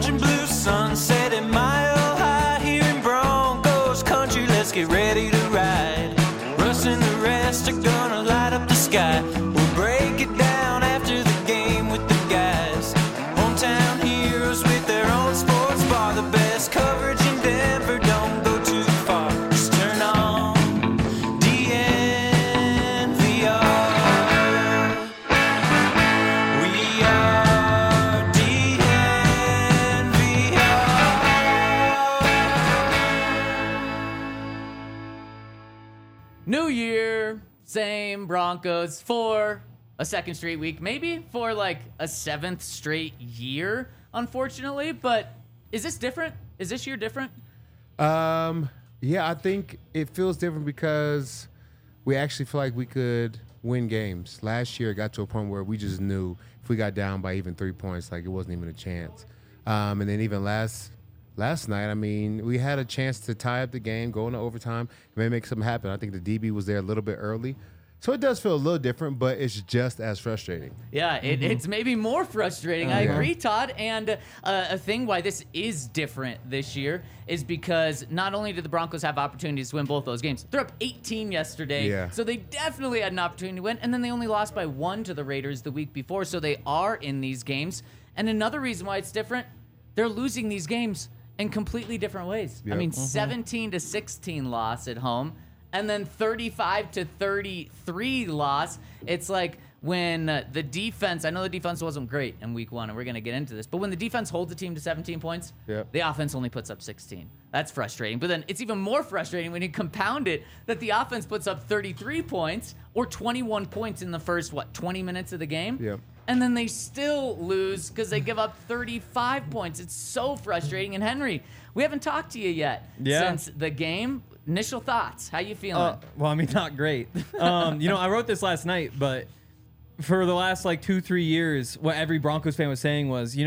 orange and blue sunset at Mile High here in Broncos country. Let's get ready to ride. Russ and the rest are gonna light up the sky. We'll break it down after the game with the guys. Hometown heroes with their own sports bar. The best coverage in Denver, don't go too far. Just turn on DNVR. We are DNVR. New year, same Broncos for a second straight week, maybe for like a seventh straight year, unfortunately. But is this different? Is this year different? Yeah, I think it feels different because we actually feel like we could win games. Last year, it got to a point where we just knew if we got down by even 3 points, like it wasn't even a chance. And then even last night, I mean, we had a chance to tie up the game, go into overtime, and maybe make something happen. I think the DB was there a little bit early. So it does feel a little different, but it's just as frustrating. Yeah, it's maybe more frustrating. I agree, Todd. And a thing why this is different this year is because not only did the Broncos have opportunities to win both those games, they're up 18 yesterday, so they definitely had an opportunity to win, and then they only lost by 1 to the Raiders the week before, so they are in these games. And another reason why it's different, they're losing these games in completely different ways. Yep. I mean, 17-16 loss at home, and then 35-33 loss. It's like when the defense, I know the defense wasn't great in week 1, and we're going to get into this, but when the defense holds the team to 17 points, the offense only puts up 16. That's frustrating. But then it's even more frustrating when you compound it that the offense puts up 33 points or 21 points in the first, 20 minutes of the game? Yep. And then they still lose because they give up 35 points. It's so frustrating. And Henry, we haven't talked to you yet since the game. Initial thoughts. How you feeling? Well, I mean, not great. I wrote this last night, but for the last 2-3 years, what every Broncos fan was saying was,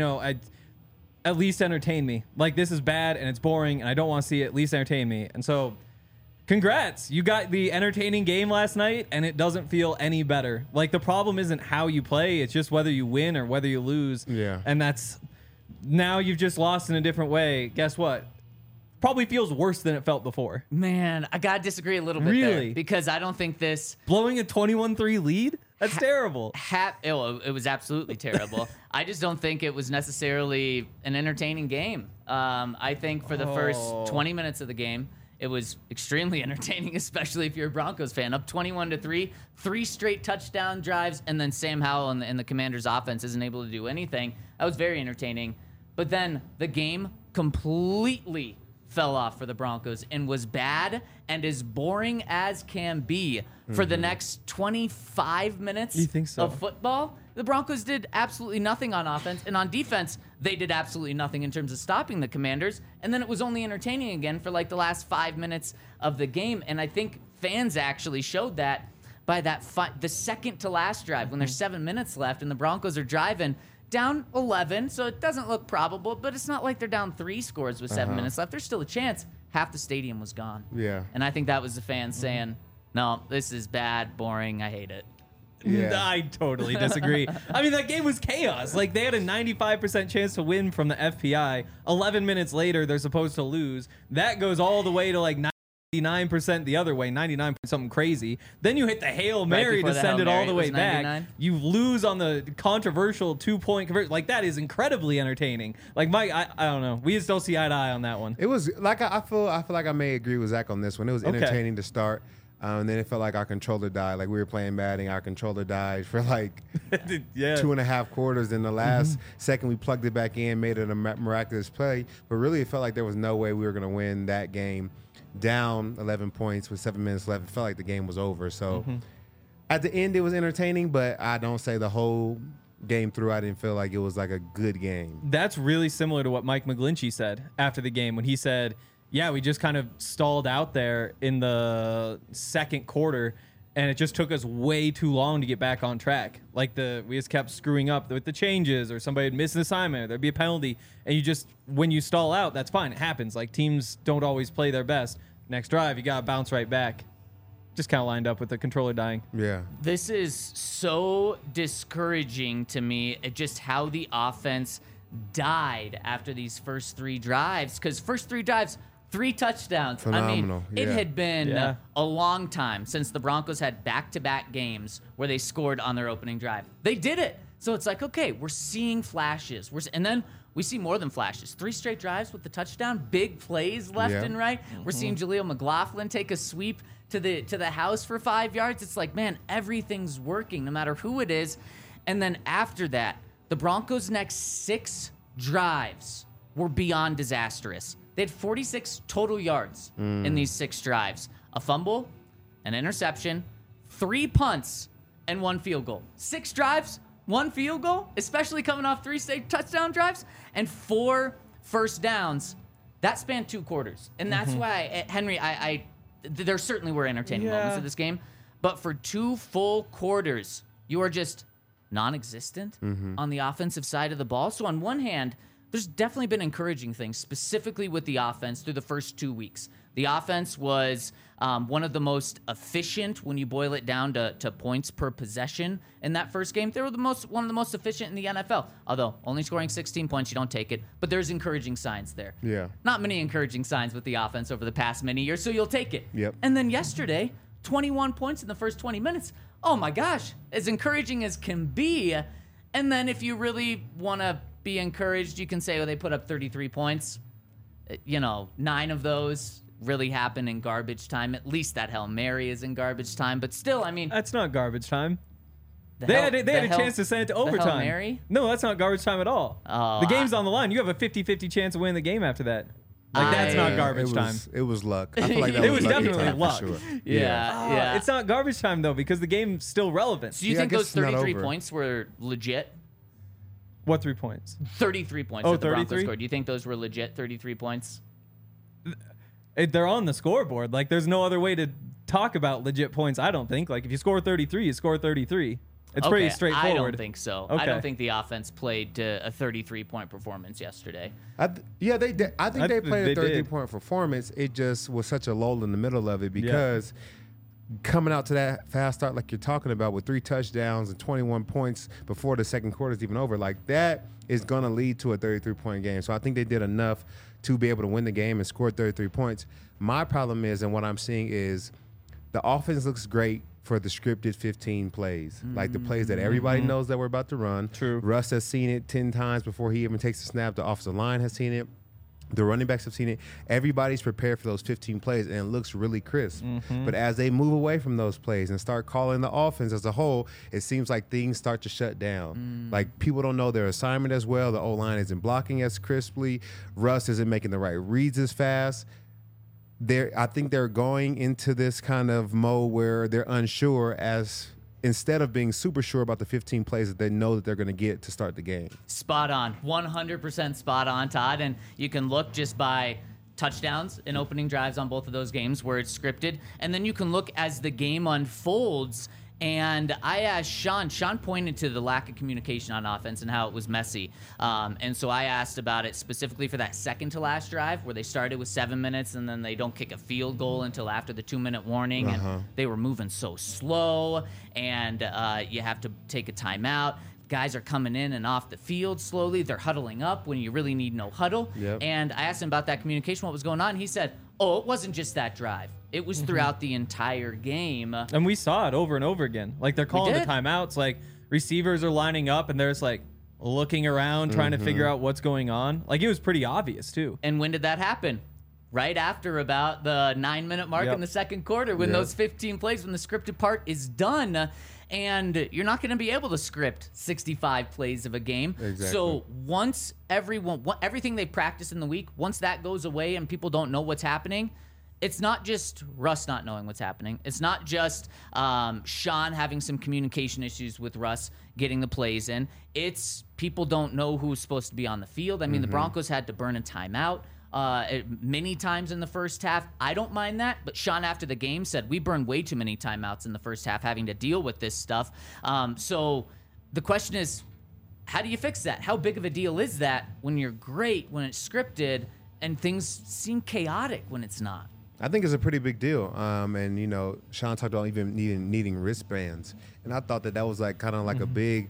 at least entertain me. Like, this is bad and it's boring and I don't want to see it. At least entertain me. And so, congrats. You got the entertaining game last night and it doesn't feel any better. Like, the problem isn't how you play. It's just whether you win or whether you lose. Yeah. And now you've just lost in a different way. Guess what? Probably feels worse than it felt before. Man, I got to disagree a little bit there because I don't think this... Blowing a 21-3 lead? That's terrible. It was absolutely terrible. I just don't think it was necessarily an entertaining game. I think for the first 20 minutes of the game, it was extremely entertaining, especially if you're a Broncos fan. Up 21-3, 3 straight touchdown drives, and then Sam Howell and the Commanders' offense isn't able to do anything. That was very entertaining. But then the game completely fell off for the Broncos and was bad and as boring as can be for the next 25 minutes of football. The Broncos did absolutely nothing on offense, and on defense, they did absolutely nothing in terms of stopping the Commanders, and then it was only entertaining again for the last 5 minutes of the game, and I think fans actually showed that by the second to last drive when there's 7 minutes left and the Broncos are driving down 11, so it doesn't look probable, but it's not like they're down 3 scores with 7 minutes left. There's still a chance. Half the stadium was gone. Yeah. And I think that was the fans saying, no, this is bad, boring, I hate it. Yeah. I totally disagree. I mean, that game was chaos. Like, they had a 95% chance to win from the FPI. 11 minutes later, they're supposed to lose. That goes all the way to 99% the other way, 99 something crazy. Then you hit the Hail Mary to send it all the way back. You lose on the controversial 2-point conversion. That is incredibly entertaining. Mike, I don't know. We just don't see eye to eye on that one. It was I feel like I may agree with Zach on this one. It was entertaining to start. And then it felt like our controller died. We were playing Madden, our controller died for 2.5 quarters. In the last second, we plugged it back in, made it a miraculous play. But really, it felt like there was no way we were going to win that game. Down 11 points with 7 minutes left. It felt like the game was over. So at the end, it was entertaining, but I don't say the whole game through, I didn't feel like it was a good game. That's really similar to what Mike McGlinchey said after the game when he said, yeah, we just kind of stalled out there in the second quarter, and it just took us way too long to get back on track. We just kept screwing up with the changes, or somebody would miss an assignment, or there'd be a penalty, and when you stall out, that's fine. It happens. Teams don't always play their best. Next drive, you got to bounce right back. Just kind of lined up with the controller dying. Yeah. This is so discouraging to me, just how the offense died after these first 3 drives, because first 3 drives, 3 touchdowns. Phenomenal. I mean, it had been a long time since the Broncos had back-to-back games where they scored on their opening drive. They did it. So it's like, okay, we're seeing flashes. And then we see more than flashes. 3 straight drives with the touchdown, big plays left and right. We're seeing Jaleel McLaughlin take a sweep to the house for 5 yards. It's like, man, everything's working no matter who it is. And then after that, the Broncos' next 6 drives were beyond disastrous. They had 46 total yards in these 6 drives. A fumble, an interception, 3 punts, and 1 field goal. 6 drives, 1 field goal, especially coming off 3 straight touchdown drives, and 4 first downs. That spanned 2 quarters. And that's why, Henry, there certainly were entertaining moments of this game, but for 2 full quarters, you are just non-existent on the offensive side of the ball. So on one hand, there's definitely been encouraging things, specifically with the offense through the first 2 weeks. The offense was one of the most efficient when you boil it down to points per possession in that first game. They were one of the most efficient in the NFL. Although only scoring 16 points, you don't take it. But there's encouraging signs there. Yeah. Not many encouraging signs with the offense over the past many years, so you'll take it. Yep. And then yesterday, 21 points in the first 20 minutes. Oh my gosh, as encouraging as can be. And then if you really want to be encouraged, you can say, well, they put up 33 points. 9 of those really happen in garbage time. At least that Hail Mary is in garbage time. But still, I mean... That's not garbage time. They had a chance to send it to overtime. The Hail Mary? No, that's not garbage time at all. Oh, the game's on the line. You have a 50-50 chance of winning the game after that. That's not garbage time. It was luck. I feel like that It was lucky definitely time for luck. sure. Yeah. It's not garbage time, though, because the game's still relevant. So you Yeah, I think guess those it's not 33 over. points were legit? What 3 points? 33 points Oh, that the Broncos 33? scored. Do you think those were legit 33 points? They're on the scoreboard. Like, there's no other way to talk about legit points, I don't think. Like, if you score 33, you score 33. It's pretty straightforward. I don't think so. Okay. I don't think the offense played to a 33-point performance yesterday. They did. I think they played a they did. 33-point performance. It just was such a lull in the middle of it because coming out to that fast start like you're talking about with 3 touchdowns and 21 points before the second quarter is even over, like that is going to lead to a 33-point game. So I think they did enough to be able to win the game and score 33 points. My problem is, and what I'm seeing is, the offense looks great for the scripted 15 plays, like the plays that everybody knows that we're about to run. True. Russ has seen it 10 times before he even takes the snap. The offensive line has seen it. The running backs have seen it. Everybody's prepared for those 15 plays, and it looks really crisp. But as they move away from those plays and start calling the offense as a whole, it seems like things start to shut down. Like, people don't know their assignment as well. The O-line isn't blocking as crisply. Russ isn't making the right reads as fast. I think they're going into this kind of mode where they're unsure, as instead of being super sure about the 15 plays that they know that they're going to get to start the game. Spot on. 100% spot on, Todd. And you can look just by touchdowns and opening drives on both of those games where it's scripted. And then you can look as the game unfolds. And I asked Sean pointed to the lack of communication on offense and how it was messy. And so I asked about it specifically for that second to last drive where they started with 7 minutes and then they don't kick a field goal until after the 2-minute warning. And they were moving so slow, and you have to take a timeout. Guys are coming in and off the field slowly. They're huddling up when you really need no huddle. Yep. And I asked him about that communication, what was going on. He said, it wasn't just that drive. It was throughout the entire game. And we saw it over and over again. Like, they're calling the did. timeouts. Like, receivers are lining up, and they're just, like, looking around, trying to figure out what's going on. Like, it was pretty obvious, too. And when did that happen? Right after about the 9-minute mark in the second quarter, when those 15 plays, when the scripted part is done. And you're not going to be able to script 65 plays of a game. Exactly. So once everything they practice in the week, once that goes away and people don't know what's happening, it's not just Russ not knowing what's happening. It's not just Sean having some communication issues with Russ getting the plays in. It's people don't know who's supposed to be on the field. I mean, the Broncos had to burn a timeout many times in the first half. I don't mind that, but Sean after the game said we burned way too many timeouts in the first half having to deal with this stuff. So the question is, how do you fix that? How big of a deal is that when you're great, when it's scripted, and things seem chaotic when it's not? I think it's a pretty big deal. And, you know, Sean talked about even needing wristbands. And I thought that was like kind of like a big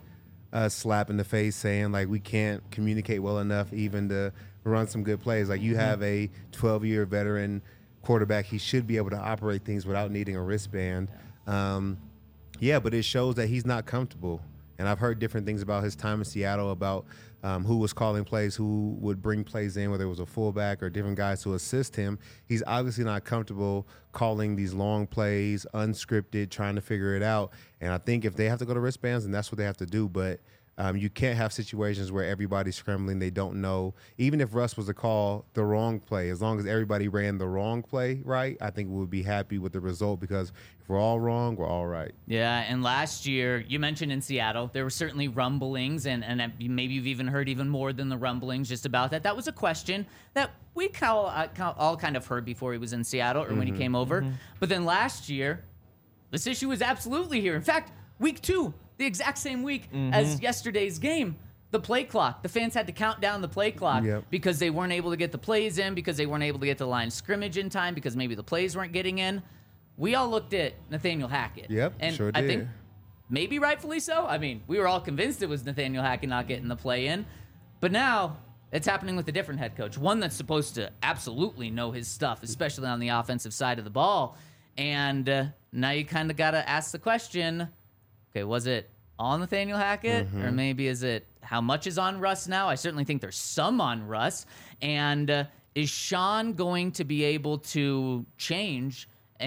slap in the face saying, like, we can't communicate well enough even to run some good plays. Like, you have a 12-year veteran quarterback. He should be able to operate things without needing a wristband. But it shows that he's not comfortable. And I've heard different things about his time in Seattle, about who was calling plays, who would bring plays in, whether it was a fullback or different guys to assist him. He's obviously not comfortable calling these long plays, unscripted, trying to figure it out. And I think if they have to go to wristbands, then that's what they have to do. But you can't have situations where everybody's scrambling. They don't know. Even if Russ was to call the wrong play, as long as everybody ran the wrong play right, I think we would be happy with the result, because if we're all wrong, we're all right. Yeah, and last year, you mentioned in Seattle, there were certainly rumblings, and maybe you've even heard even more than the rumblings just about that. That was a question that we all kind of heard before he was in Seattle or when he came over. But then last year, this issue was absolutely here. In fact, week 2, the exact same week as yesterday's game, the play clock. The fans had to count down the play clock because they weren't able to get the plays in, because they weren't able to get the line of scrimmage in time, because maybe the plays weren't getting in. We all looked at Nathaniel Hackett. And sure I did. think maybe rightfully so. I mean, we were all convinced it was Nathaniel Hackett not getting the play in. But now it's happening with a different head coach, one that's supposed to absolutely know his stuff, especially on the offensive side of the ball. And now you kind of got to ask the question, okay, was it all Nathaniel Hackett? Or maybe is it how much is on Russ now? I certainly think there's some on Russ. And is Sean going to be able to change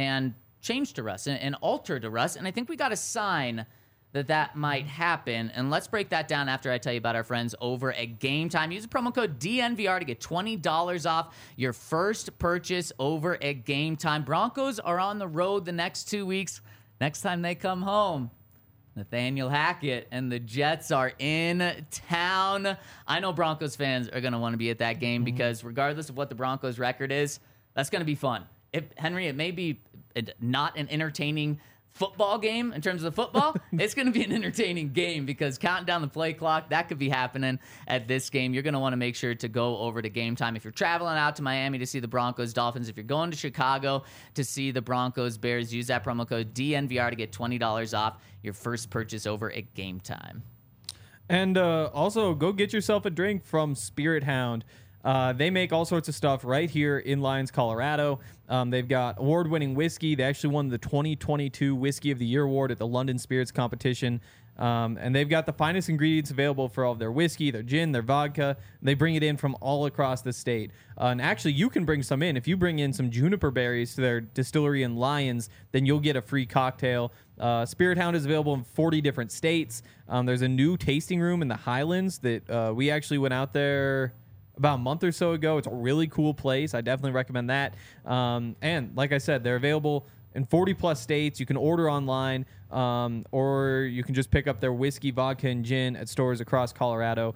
to Russ and alter to Russ? And I think we got a sign that might happen. And let's break that down after I tell you about our friends over at Game Time. Use the promo code DNVR to get $20 off your first purchase over at Game Time. Broncos are on the road the next 2 weeks. Next time they come home, Nathaniel Hackett and the Jets are in town. I know Broncos fans are going to want to be at that game because regardless of what the Broncos record is, that's going to be fun. Henry, it may be not an entertaining football game in terms of the football. It's going to be an entertaining game because counting down the play clock, that could be happening at this game. You're going to want to make sure to go over to Game Time. If you're traveling out to Miami to see the Broncos Dolphins, if you're going to Chicago to see the Broncos Bears, use that promo code DNVR to get $20 off your first purchase over at Game Time. And also go get yourself a drink from Spirit Hound. They make all sorts of stuff right here in Lyons, Colorado. They've got award-winning whiskey. They actually won the 2022 Whiskey of the Year award at the London Spirits competition. And they've got the finest ingredients available for all of their whiskey, their gin, their vodka. They bring it in from all across the state. And actually, you can bring some in. If you bring in some juniper berries to their distillery in Lyons, then you'll get a free cocktail. Spirit Hound is available in 40 different states. There's a new tasting room in the Highlands that we actually went out there about a month or so ago. It's a really cool place. I definitely recommend that. And like I said, they're available in 40 plus states. You can order online, or you can just pick up their whiskey, vodka, and gin at stores across Colorado.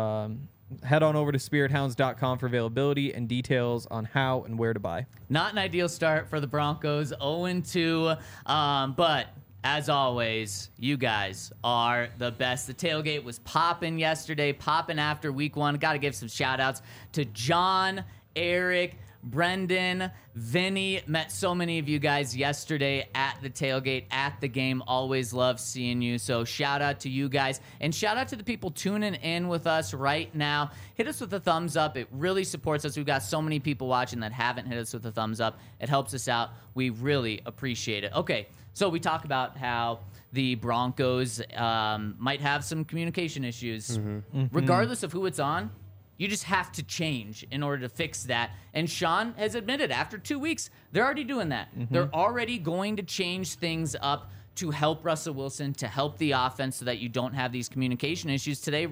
Head on over to spirithounds.com for availability and details on how and where to buy. Not an ideal start for the Broncos, 0-2, but as always, you guys are the best. The tailgate was popping yesterday, popping after week 1. Got to give some shout-outs to John, Eric, Brendan, Vinny. Met so many of you guys yesterday at the tailgate, at the game. Always love seeing you. So shout out to you guys. And shout out to the people tuning in with us right now. Hit us with a thumbs up. It really supports us. We've got so many people watching that haven't hit us with a thumbs up. It helps us out. We really appreciate it. Okay, so we talk about how the Broncos might have some communication issues. Regardless of who it's on, you just have to change in order to fix that. And Sean has admitted after 2 weeks, they're already doing that. They're already going to change things up to help Russell Wilson, to help the offense so that you don't have these communication issues. Today,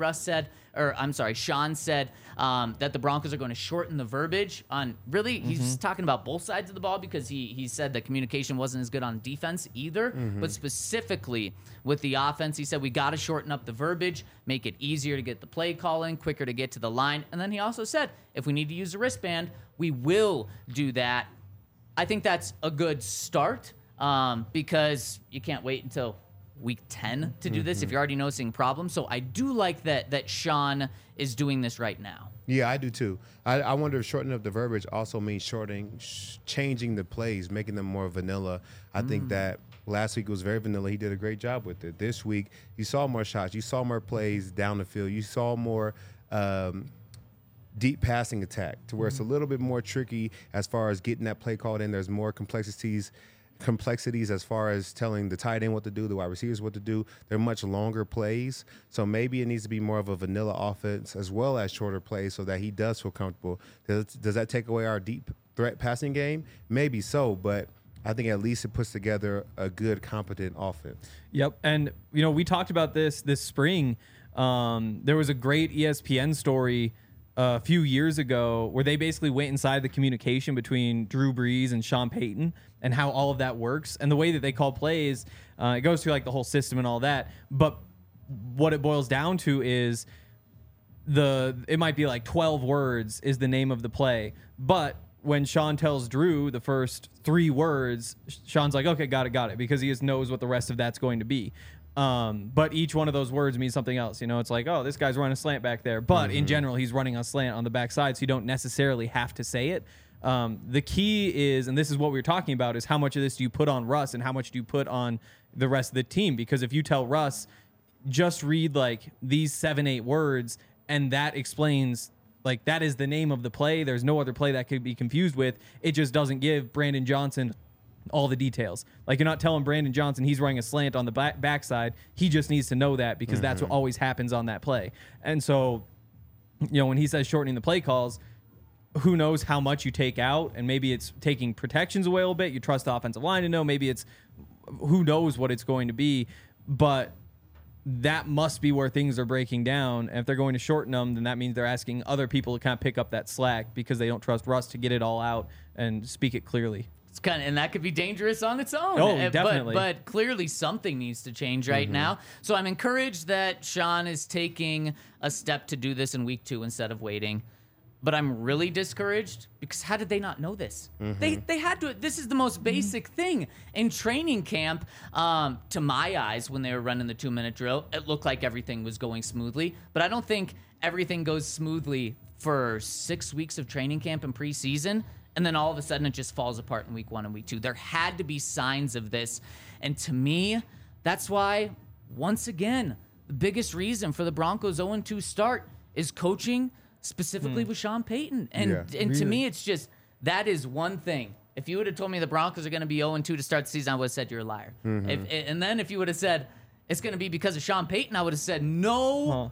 Sean said that the Broncos are going to shorten the verbiage on really, he's talking about both sides of the ball because he said that communication wasn't as good on defense either, but specifically with the offense, he said we got to shorten up the verbiage, make it easier to get the play calling, quicker to get to the line. And then he also said if we need to use a wristband, we will do that. I think that's a good start. Because you can't wait until week 10 to do this if you're already noticing problems. So I do like that Sean is doing this right now. Yeah, I do too. I wonder if shortening up the verbiage also means changing the plays, making them more vanilla. I think that last week was very vanilla. He did a great job with it. This week, you saw more shots. You saw more plays down the field. You saw more deep passing attack to where it's a little bit more tricky as far as getting that play called in. There's more complexities as far as telling the tight end what to do, the wide receivers what to do. They're much longer plays. So maybe it needs to be more of a vanilla offense as well as shorter plays so that he does feel comfortable. Does that take away our deep threat passing game? Maybe so, but I think at least it puts together a good, competent offense. Yep. And, we talked about this spring. There was a great ESPN story a few years ago where they basically went inside the communication between Drew Brees and Sean Payton and how all of that works. And the way that they call plays, it goes through like the whole system and all that. But what it boils down to is it might be like 12 words is the name of the play. But when Sean tells Drew the first 3 words, Sean's like, okay, got it, because he just knows what the rest of that's going to be. But each one of those words means something else. It's like, oh, this guy's running a slant back there. But in general, he's running a slant on the backside, so you don't necessarily have to say it. The key is, and this is what we were talking about, is how much of this do you put on Russ and how much do you put on the rest of the team? Because if you tell Russ, just read like these 7-8 words, and that explains, like, that is the name of the play. There's no other play that could be confused with. It just doesn't give Brandon Johnson all the details. Like, you're not telling Brandon Johnson he's running a slant on the backside. He just needs to know that because that's what always happens on that play. And so, when he says shortening the play calls, who knows how much you take out, and maybe it's taking protections away a little bit. You trust the offensive line to know. Maybe it's who knows what it's going to be, but that must be where things are breaking down. And if they're going to shorten them, then that means they're asking other people to kind of pick up that slack because they don't trust Russ to get it all out and speak it clearly. It's and that could be dangerous on its own. Oh, definitely. But clearly something needs to change right now. So I'm encouraged that Sean is taking a step to do this in week 2 instead of waiting. But I'm really discouraged because how did they not know this? They had to. This is the most basic thing in training camp. To my eyes, when they were running the 2-minute drill, it looked like everything was going smoothly. But I don't think everything goes smoothly for 6 weeks of training camp and preseason, and then all of a sudden it just falls apart in week 1 and week 2. There had to be signs of this, and to me, that's why, once again, the biggest reason for the Broncos' 0-2 start is coaching, specifically with Sean Payton. And to me, it's just, that is one thing. If you would have told me the Broncos are going to be 0-2 to start the season, I would have said you're a liar. And then if you would have said it's going to be because of Sean Payton, I would have said no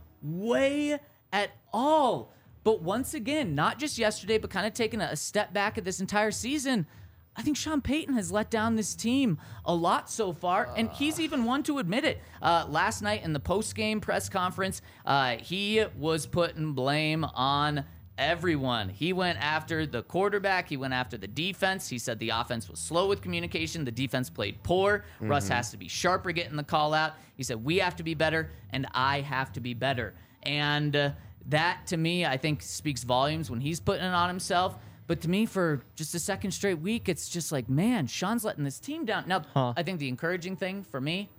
way at all. But once again, not just yesterday, but kind of taking a step back at this entire season, I think Sean Payton has let down this team a lot so far, and he's even one to admit it. Last night in the post-game press conference, he was putting blame on everyone. He went after the quarterback. He went after the defense. He said the offense was slow with communication. The defense played poor. Russ has to be sharper getting the call out. He said, we have to be better, and I have to be better. And that, to me, I think speaks volumes when he's putting it on himself. But to me, for just a second straight week, it's just like, man, Sean's letting this team down. Now, I think the encouraging thing for me,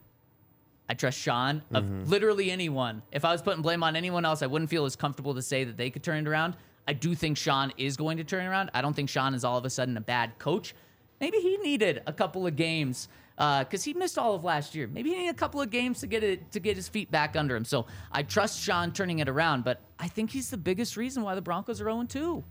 I trust Sean of literally anyone. If I was putting blame on anyone else, I wouldn't feel as comfortable to say that they could turn it around. I do think Sean is going to turn it around. I don't think Sean is all of a sudden a bad coach. Maybe he needed a couple of games because he missed all of last year. Maybe he needed a couple of games to get his feet back under him. So I trust Sean turning it around, but I think he's the biggest reason why the Broncos are 0-2.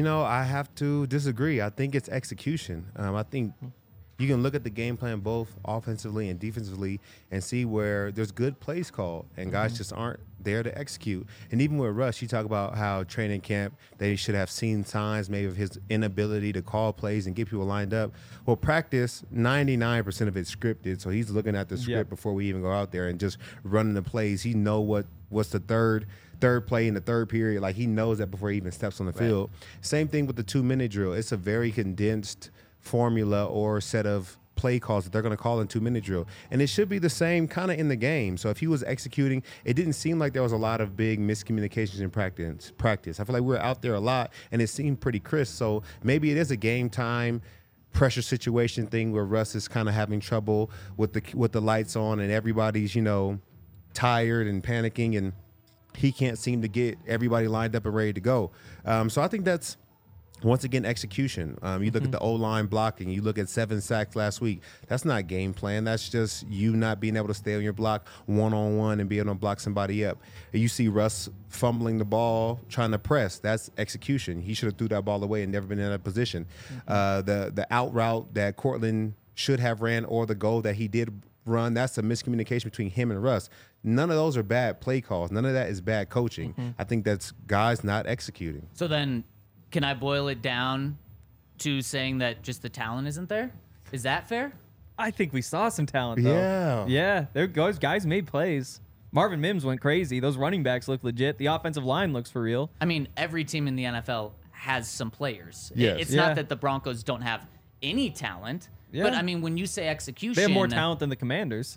I have to disagree. I think it's execution. I think you can look at the game plan both offensively and defensively and see where there's good plays called and guys just aren't there to execute. And even with Russ, you talk about how training camp, they should have seen signs maybe of his inability to call plays and get people lined up. Well, practice, 99% of it's scripted, so he's looking at the script before we even go out there and just running the plays. He know what's the third play in the third period. Like, he knows that before he even steps on the field. Same thing with the 2-minute drill. It's a very condensed formula or set of play calls that they're going to call in 2-minute drill. And it should be the same kind of in the game. So if he was executing, it didn't seem like there was a lot of big miscommunications in practice. I feel like we were out there a lot and it seemed pretty crisp. So maybe it is a game time pressure situation thing where Russ is kind of having trouble with the lights on and everybody's, tired and panicking, and he can't seem to get everybody lined up and ready to go. So I think that's, once again, execution. You look at the O-line blocking. You look at 7 sacks last week. That's not game plan. That's just you not being able to stay on your block one-on-one and be able to block somebody up. And you see Russ fumbling the ball, trying to press. That's execution. He should have threw that ball away and never been in that position. The out route that Cortland should have ran, or the goal that he did run, that's a miscommunication between him and Russ. None of those are bad play calls. None of that is bad coaching. I think that's guys not executing. So then, can I boil it down to saying that just the talent isn't there? Is that fair? I think we saw some talent, though. Yeah. There goes. Guys made plays. Marvin Mims went crazy. Those running backs look legit. The offensive line looks for real. I mean, every team in the NFL has some players. Yes. It's not that the Broncos don't have any talent. Yeah. But, I mean, when you say execution... They have more talent than the Commanders.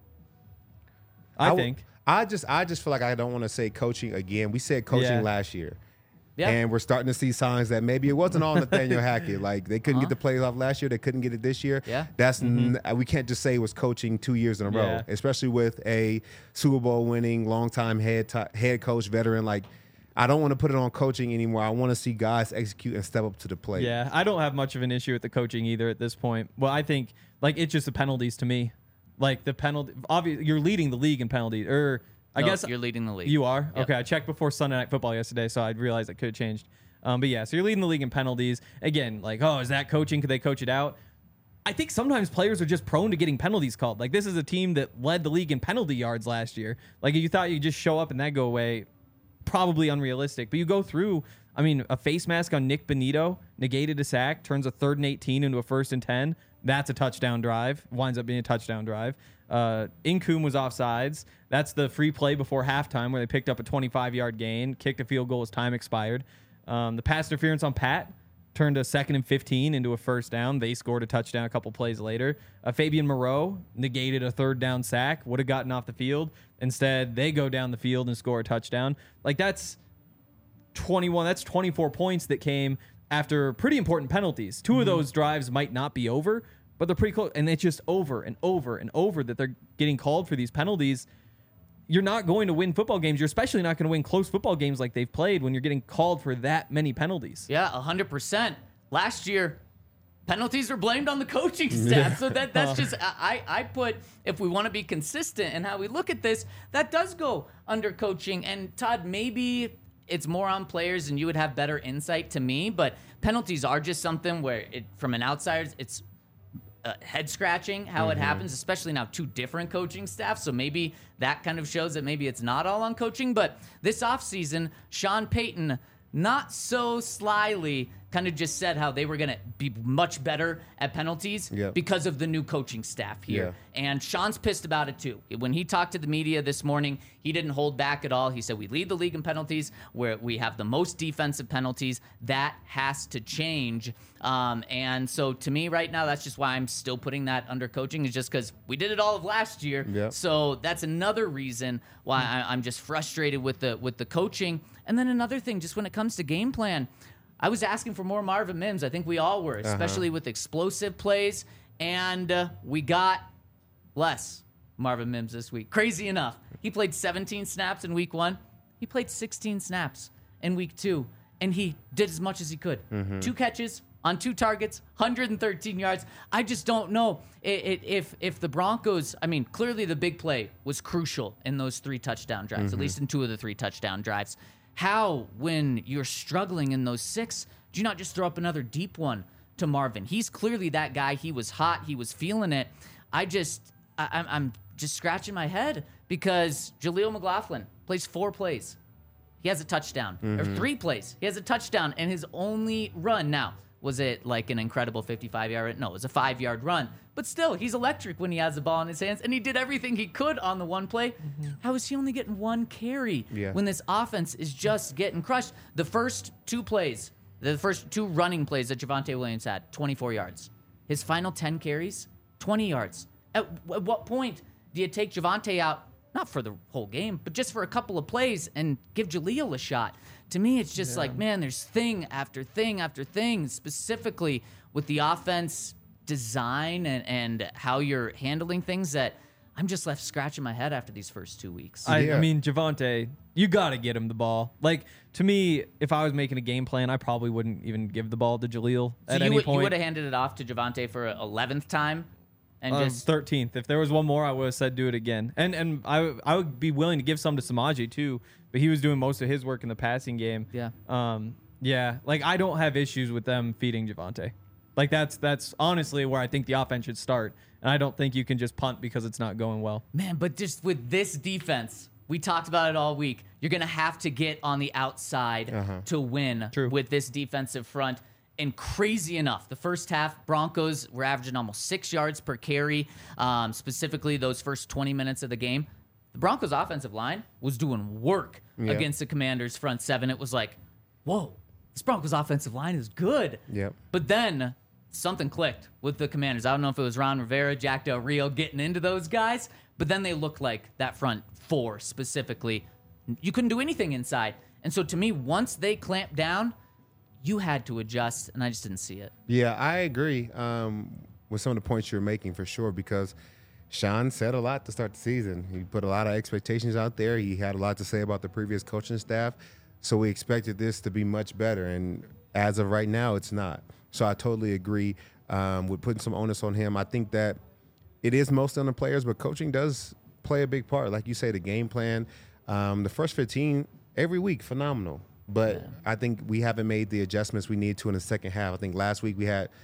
I think. I just feel like I don't want to say coaching again. We said coaching last year. Yeah. And we're starting to see signs that maybe it wasn't all Nathaniel Hackett. Like, they couldn't get the plays off last year. They couldn't get it this year. Yeah. That's we can't just say it was coaching 2 years in a row, especially with a Super Bowl winning, longtime head coach, veteran. Like, I don't want to put it on coaching anymore. I want to see guys execute and step up to the plate. Yeah, I don't have much of an issue with the coaching either at this point. Well, I think, it's just the penalties to me. Like, the penalty, obviously, you're leading the league in penalties. I guess you're leading the league. You are? Yep. Okay, I checked before Sunday Night Football yesterday, so I realized it could have changed. But yeah, so you're leading the league in penalties. Again, is that coaching? Could they coach it out? I think sometimes players are just prone to getting penalties called. Like, this is a team that led the league in penalty yards last year. Like, if you thought you'd just show up and that go away, probably unrealistic. But you go through, a face mask on Nick Benito, negated a sack, turns a 3rd and 18 into a 1st and 10. That's a touchdown drive. Winds up being a touchdown drive. Incoom was offsides. That's the free play before halftime where they picked up a 25-yard gain, kicked a field goal as time expired. The pass interference on Pat turned a 2nd and 15 into a 1st down. They scored a touchdown a couple plays later. Fabian Moreau negated a 3rd down sack, would have gotten off the field. Instead, they go down the field and score a touchdown. That's 21. That's 24 points that came after pretty important penalties. 2 of those drives might not be over, but they're pretty close. And it's just over and over and over that they're getting called for these penalties. You're not going to win football games. You're especially not going to win close football games like they've played when you're getting called for that many penalties. Yeah, 100%. Last year, penalties were blamed on the coaching staff. So that's just, I put, if we want to be consistent in how we look at this, that does go under coaching. And Todd, maybe it's more on players and you would have better insight to me, but penalties are just something where from an outsider, it's head scratching how it happens, especially now 2 different coaching staffs. So maybe that kind of shows that maybe it's not all on coaching. But this offseason, Sean Payton, not so slyly, kind of just said how they were going to be much better at penalties because of the new coaching staff here. And Sean's pissed about it too. When he talked to the media this morning, he didn't hold back at all. He said, we lead the league in penalties, where we have the most defensive penalties. That has to change. And so to me right now, that's just why I'm still putting that under coaching, is just because we did it all of last year. So that's another reason why I'm just frustrated with the coaching. And then another thing, just when it comes to game plan, I was asking for more Marvin Mims. I think we all were, especially with explosive plays. And we got less Marvin Mims this week. Crazy enough. He played 17 snaps in week 1. He played 16 snaps in week 2. And he did as much as he could. 2 catches on 2 targets, 113 yards. I just don't know if the Broncos, clearly the big play was crucial in those 3 touchdown drives, at least in 2 of the 3 touchdown drives. How, when you're struggling in those 6, do you not just throw up another deep one to Marvin? He's clearly that guy. He was hot. He was feeling it. I'm just scratching my head because Jaleel McLaughlin plays 4 plays. He has a touchdown. Or 3 plays. He has a touchdown, and his only run. Now, was it like an incredible 55-yard? No, it was a 5-yard run. But still, he's electric when he has the ball in his hands, and he did everything he could on the one play. How is he only getting 1 carry when this offense is just getting crushed? The first 2 plays, the first 2 running plays that Javonte Williams had, 24 yards. His final 10 carries, 20 yards. At what point do you take Javonte out, not for the whole game, but just for a couple of plays and give Jaleel a shot? to me, it's just like, man, there's thing after thing after thing, specifically with the offense design and how you're handling things that I'm just left scratching my head after these first 2 weeks. I mean, Javonte, you got to get him the ball. Like, to me, if I was making a game plan, I probably wouldn't even give the ball to Jaleel at any point. You would have handed it off to Javonte for an 11th time? And just 13th. If there was one more, I would have said do it again. And I would be willing to give some to Samaje too, but he was doing most of his work in the passing game. Yeah. Like, I don't have issues with them feeding Javonte. Like, that's honestly where I think the offense should start. And I don't think you can just punt because it's not going well. Man, but just with this defense, we talked about it all week. You're going to have to get on the outside to win with this defensive front. And crazy enough, the first half, Broncos were averaging almost 6 yards per carry, specifically those first 20 minutes of the game. The Broncos' offensive line was doing work against the Commanders' front seven. It was like, whoa, this Broncos' offensive line is good. Yep. But then something clicked with the Commanders. I don't know if it was Ron Rivera, Jack Del Rio getting into those guys, but then they looked like that front four specifically. You couldn't do anything inside. And so to me, once they clamped down, you had to adjust, and I just didn't see it. Yeah, I agree with some of the points you're making for sure, because Sean said a lot to start the season. He put a lot of expectations out there. He had a lot to say about the previous coaching staff. So we expected this to be much better, and as of right now, it's not. So I totally agree with putting some onus on him. I think that it is mostly on the players, but coaching does play a big part. Like you say, the game plan, the first 15 every week, phenomenal. But I think we haven't made the adjustments we need to in the second half. I think last week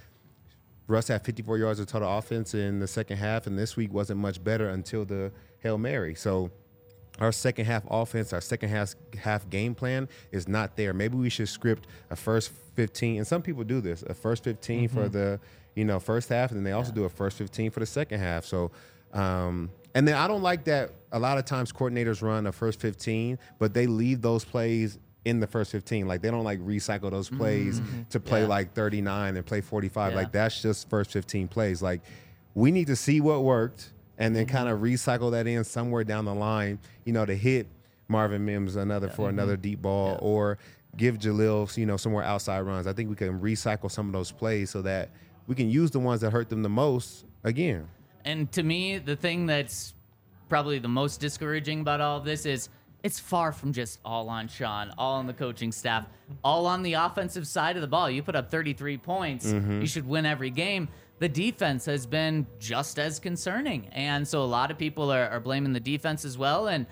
Russ had 54 yards of total offense in the second half, and this week wasn't much better until the Hail Mary. So our second half offense, our second half game plan is not there. Maybe we should script a first 15, and some people do this, a first 15 for the first half, and then they also do a first 15 for the second half. So and then I don't like that a lot of times coordinators run a first 15, but they leave those plays in the first 15. Like, they don't like recycle those plays to play like 39 and play 45. Like, that's just first 15 plays. Like, we need to see what worked and then kind of recycle that in somewhere down the line, to hit Marvin Mims for another deep ball or give Jaleel, somewhere outside runs. I think we can recycle some of those plays so that we can use the ones that hurt them the most again. And to me, the thing that's probably the most discouraging about all of this is it's far from just all on Sean, all on the coaching staff, all on the offensive side of the ball. You put up 33 points, you should win every game. The defense has been just as concerning. And so a lot of people are blaming the defense as well. And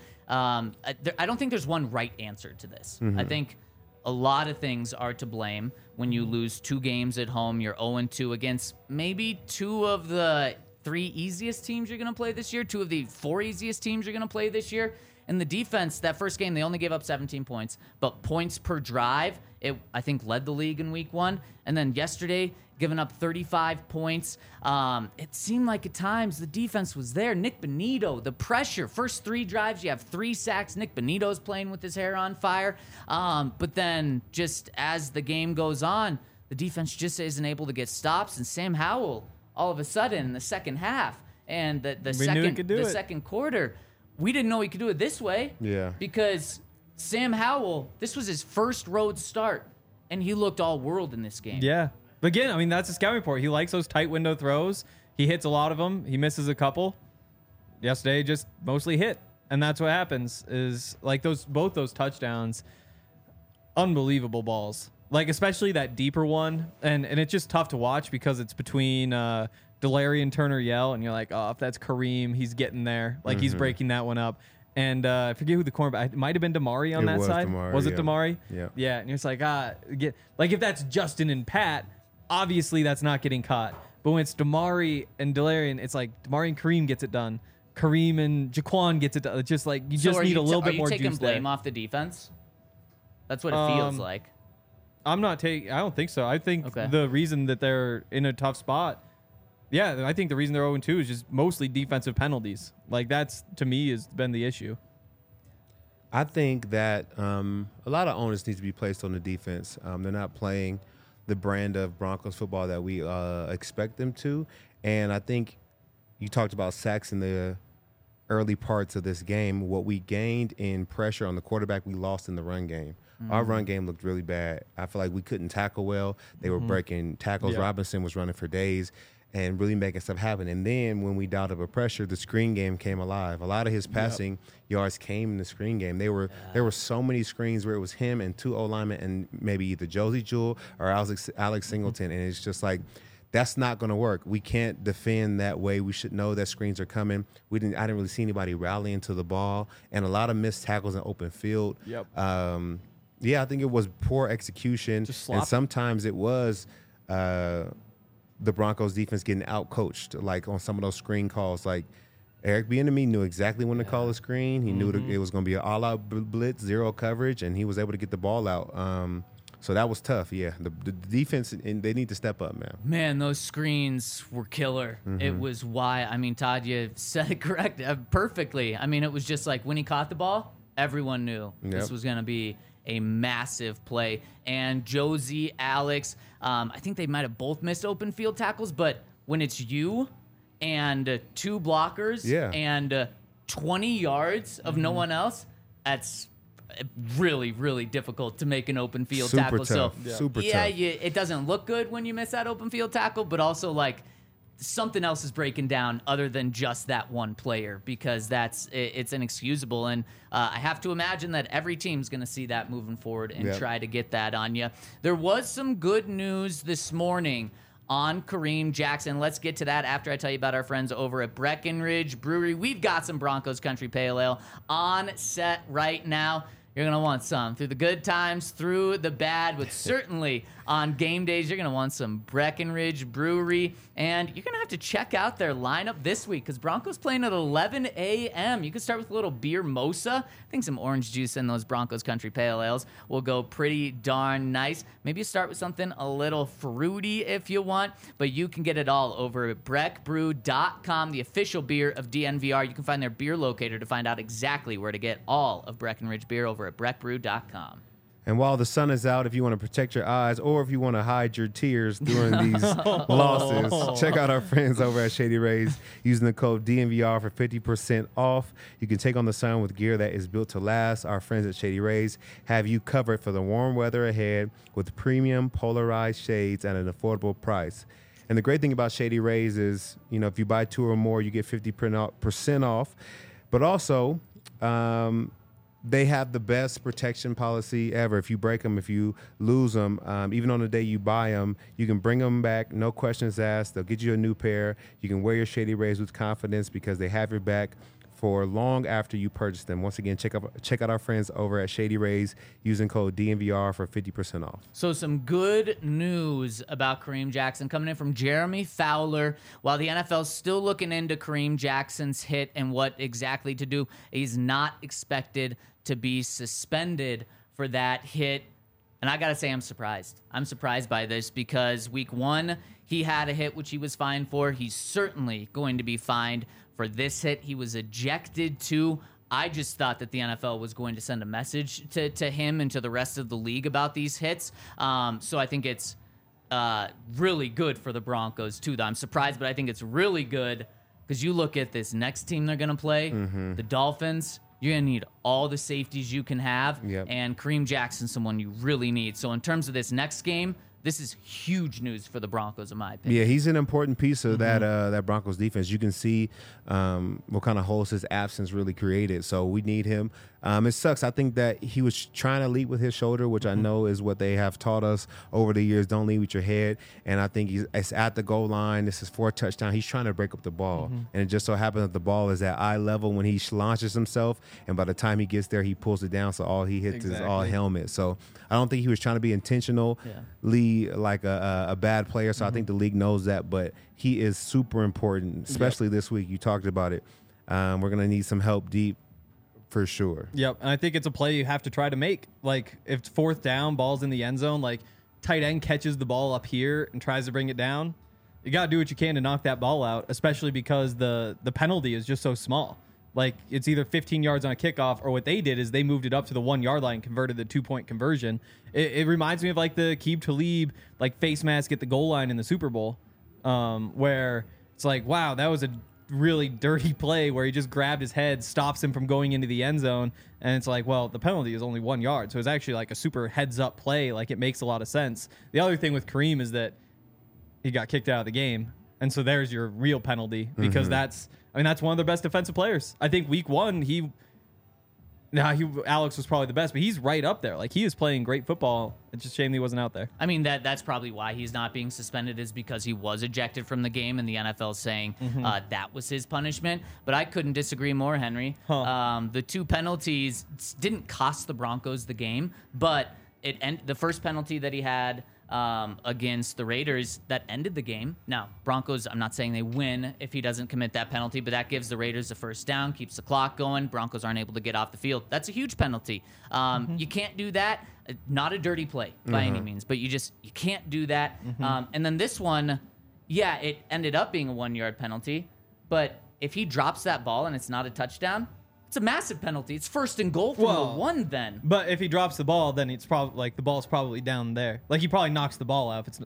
I don't think there's one right answer to this. I think a lot of things are to blame when you lose 2 games at home. You're 0-2 against maybe 2 of the 3 easiest teams you're going to play this year, 2 of the 4 easiest teams you're going to play this year. And the defense, that first game, they only gave up 17 points, but points per drive, it, I think, led the league in week 1. And then yesterday, giving up 35 points. It seemed like at times the defense was there. Nick Bonito, the pressure, first 3 drives, you have 3 sacks. Nick Bonito's playing with his hair on fire. But then just as the game goes on, the defense just isn't able to get stops. And Sam Howell, all of a sudden, in the second half and the second quarter, we didn't know he could do it this way. Yeah. Because Sam Howell, this was his first road start, and he looked all world in this game. Yeah. But again, I mean, that's a scouting report. He likes those tight window throws. He hits a lot of them. He misses a couple. Yesterday, just mostly hit. And that's what happens is, like, both those touchdowns, unbelievable balls. Like, especially that deeper one. And it's just tough to watch because it's between Delary and Turner Yell, and you're like, oh, if that's Kareem, he's getting there. Like, he's breaking that one up. And I forget who the cornerback, it might have been Damari on that side. Was it Damari? Yeah. Yeah, and you're just like, if that's Justin and Pat, obviously that's not getting caught. But when it's Damari and Delary, it's like Damari and Kareem gets it done. Kareem and Jaquan gets it done. It's just like, you just need a little bit more juice there. Are you taking blame off the defense? That's what it feels like. I don't think so. I think the reason that they're in a tough spot, I think the reason they're 0-2 is just mostly defensive penalties. Like, that's, to me, has been the issue. I think that a lot of onus needs to be placed on the defense. They're not playing the brand of Broncos football that we expect them to. And I think you talked about sacks in the early parts of this game. What we gained in pressure on the quarterback, we lost in the run game. Our run game looked really bad. I feel like we couldn't tackle well. They were breaking tackles. Yeah. Robinson was running for days and really making stuff happen. And then when we dialed up a pressure, the screen game came alive. A lot of his passing yards came in the screen game. There were so many screens where it was him and 2 O-linemen and maybe either Josie Jewell or Alex Singleton. And it's just like, that's not going to work. We can't defend that way. We should know that screens are coming. I didn't really see anybody rallying to the ball, and a lot of missed tackles in open field. Yep. Yeah, I think it was poor execution, and sometimes it was the Broncos defense getting out-coached, like on some of those screen calls. Like Eric Bieniemy knew exactly when to call a screen. He knew it was going to be an all-out blitz, zero coverage, and he was able to get the ball out. So that was tough, yeah. The defense, and they need to step up, man. Man, those screens were killer. It was why. I mean, Todd, you said it correct perfectly. I mean, it was just like when he caught the ball, everyone knew this was going to be a massive play. And Josie, Alex, I think they might have both missed open field tackles, but when it's you and 2 blockers and 20 yards of no one else, that's really, really difficult to make an open field tackle. Tough. So Super tough. It doesn't look good when you miss that open field tackle, but also like something else is breaking down other than just that one player, because it's inexcusable. And I have to imagine that every team's going to see that moving forward and try to get that on you. There was some good news this morning on Kareem Jackson. Let's get to that after I tell you about our friends over at Breckenridge Brewery. We've got some Broncos Country Pale Ale on set right now. You're going to want some through the good times, through the bad, but certainly on game days, you're going to want some Breckenridge Brewery. And you're going to have to check out their lineup this week because Broncos playing at 11 a.m. You can start with a little beer mosa. I think some orange juice in those Broncos Country Pale Ales will go pretty darn nice. Maybe you start with something a little fruity if you want, but you can get it all over at breckbrew.com, the official beer of DNVR. You can find their beer locator to find out exactly where to get all of Breckenridge beer over at breckbrew.com. And while the sun is out, if you want to protect your eyes or if you want to hide your tears during these losses, check out our friends over at Shady Rays using the code DNVR for 50% off. You can take on the sun with gear that is built to last. Our friends at Shady Rays have you covered for the warm weather ahead with premium polarized shades at an affordable price. And the great thing about Shady Rays is, if you buy 2 or more, you get 50% off. But also, they have the best protection policy ever. If you break them, if you lose them, even on the day you buy them, you can bring them back, no questions asked. They'll get you a new pair. You can wear your Shady Rays with confidence because they have your back for long after you purchase them. Once again, check out our friends over at Shady Rays using code DNVR for 50% off. So some good news about Kareem Jackson coming in from Jeremy Fowler. While the NFL's still looking into Kareem Jackson's hit and what exactly to do, he's not expected to be suspended for that hit. And I got to say, I'm surprised. I'm surprised by this because week 1, he had a hit, which he was fined for. He's certainly going to be fined for this hit. He was ejected too. I just thought that the NFL was going to send a message to him and to the rest of the league about these hits. So I think it's really good for the Broncos too. I'm surprised, but I think it's really good because you look at this next team they're going to play, the Dolphins. You're going to need all the safeties you can have, and Kareem Jackson's someone you really need. So in terms of this next game, this is huge news for the Broncos, in my opinion. Yeah, he's an important piece of that Broncos defense. You can see what kind of holes his absence really created. So we need him. It sucks. I think that he was trying to lead with his shoulder, which I know is what they have taught us over the years. Don't lead with your head. And I think it's at the goal line. This is for a touchdown. He's trying to break up the ball. And it just so happens that the ball is at eye level when he launches himself. And by the time he gets there, he pulls it down. So all he hits is all helmet. So I don't think he was trying to be intentionally like a bad player. So I think the league knows that. But he is super important, especially this week. You talked about it. We're going to need some help deep. For sure. Yep. And I think it's a play you have to try to make. Like, if it's 4th down, ball's in the end zone, like, tight end catches the ball up here and tries to bring it down, you got to do what you can to knock that ball out, especially because the penalty is just so small. Like, it's either 15 yards on a kickoff, or what they did is they moved it up to the 1 yard line, converted the 2-point conversion. It reminds me of, like, the Aqib Talib, like, face mask at the goal line in the Super Bowl, where it's like, wow, that was a really dirty play where he just grabbed his head, stops him from going into the end zone. And it's like, well, the penalty is only 1 yard. So it's actually like a super heads up play. Like, it makes a lot of sense. The other thing with Kareem is that he got kicked out of the game. And so there's your real penalty because that's one of their best defensive players. I think week 1, Alex was probably the best, but he's right up there. Like, he is playing great football. It's just a shame he wasn't out there. I mean, that's probably why he's not being suspended, is because he was ejected from the game, and the NFL saying that was his punishment. But I couldn't disagree more, Henry. The 2 penalties didn't cost the Broncos the game, but the first penalty that he had against the Raiders that ended the game. Now, Broncos, I'm not saying they win if he doesn't commit that penalty, but that gives the Raiders the first down, keeps the clock going. Broncos aren't able to get off the field. That's a huge penalty. You can't do that. Not a dirty play by any means, but you can't do that. And then this one, it ended up being a 1 yard penalty, but if he drops that ball and it's not a touchdown, it's a massive penalty. It's 1st and goal from the 1 then. But if he drops the ball, then it's probably like the ball's probably down there. Like, he probably knocks the ball out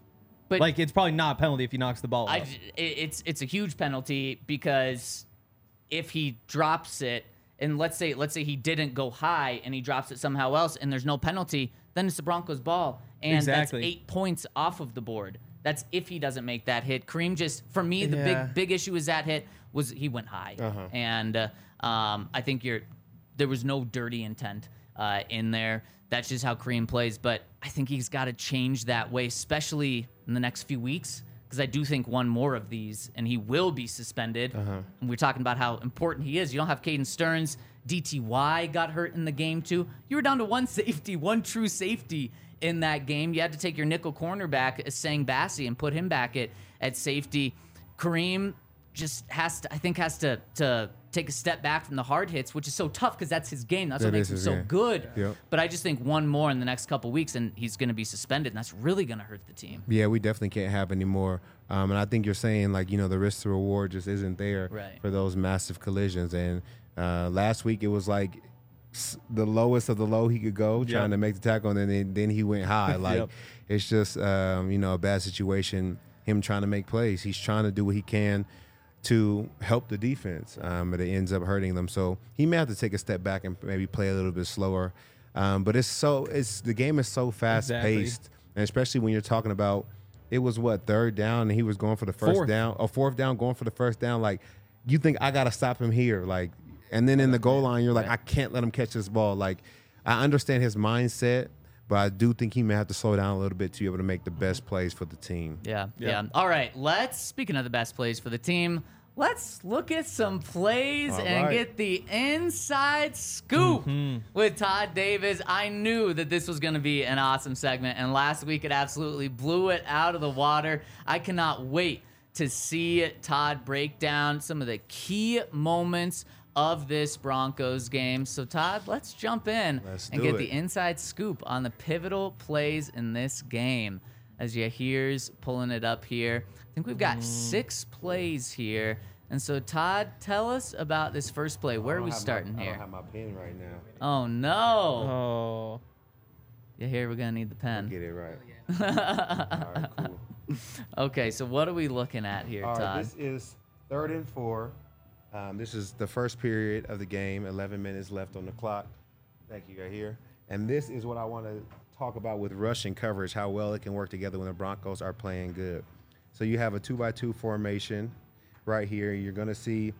it's probably not a penalty if he knocks the ball out. It's a huge penalty because if he drops it, and let's say he didn't go high and he drops it somehow else and there's no penalty, then it's the Broncos' ball. And that's 8 points off of the board. That's if he doesn't make that hit. Kareem just, for me, the big issue is that hit was he went high. And I think there was no dirty intent in there. That's just how Kareem plays. But I think he's got to change that way, especially in the next few weeks, because I do think one more of these, and he will be suspended. And we're talking about how important he is. You don't have Caden Stearns. DTY got hurt in the game, too. You were down to one true safety in that game. You had to take your nickel cornerback, Sang Bassi, and put him back at safety. Kareem just has to take a step back from the hard hits, which is so tough because that's his game. That's what makes him so good. Yep. But I just think one more in the next couple weeks and he's going to be suspended, and that's really going to hurt the team. Yeah, we definitely can't have any more. And I think you're saying, like, the risk to reward just isn't there for those massive collisions. And last week it was like the lowest of the low he could go, trying to make the tackle, and then he went high. Like, it's just, a bad situation, him trying to make plays. He's trying to do what he can to help the defense, but it ends up hurting them. So he may have to take a step back and maybe play a little bit slower. But the game is so fast paced, and especially when you're talking about, it was 3rd down and he was going for the first down, or 4th down going for the first down. Like, you think I got to stop him here, like, and then in the goal line you're like, I can't let him catch this ball. Like, I understand his mindset, but I do think he may have to slow down a little bit to be able to make the best plays for the team. Yeah. All right, speaking of the best plays for the team, let's look at some plays get the inside scoop with Todd Davis. I knew that this was going to be an awesome segment, and last week it absolutely blew it out of the water. I cannot wait to see Todd break down some of the key moments of this Broncos game. So, Todd, let's jump in and get the inside scoop on the pivotal plays in this game. As you here's pulling it up here. I think we've got 6 plays here. And so, Todd, tell us about this first play. Where are we starting here? I don't have my pen right now. Oh, no. Oh. Yeah, here we're going to need the pen. Get it right. All right, cool. Okay, so what are we looking at here, Todd? All right, this is 3rd and 4. This is the first period of the game, 11 minutes left on the clock. Thank you, right here. And this is what I want to talk about with rush and coverage, how well it can work together when the Broncos are playing good. So you have a 2-by-2 formation right here. You're going to see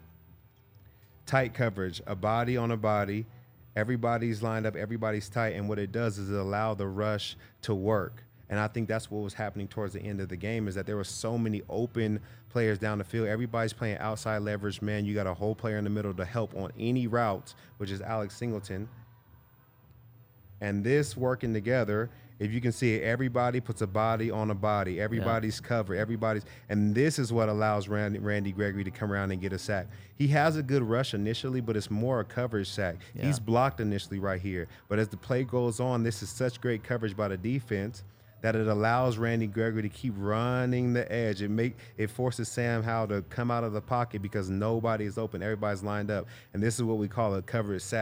tight coverage, a body on a body. Everybody's lined up, everybody's tight, and what it does is it allows the rush to work. And I think that's what was happening towards the end of the game, is that there were so many open players down the field. Everybody's playing outside leverage man. You got a whole player in the middle to help on any route, which is Alex Singleton. And this working together, if you can see it, everybody puts a body on a body. Everybody's covered. And this is what allows Randy Gregory to come around and get a sack. He has a good rush initially, but it's more a coverage sack. Yeah. He's blocked initially right here. But as the play goes on, this is such great coverage by the defense that it allows Randy Gregory to keep running the edge. It forces Sam Howell to come out of the pocket because nobody is open. Everybody's lined up. And this is what we call a coverage sack.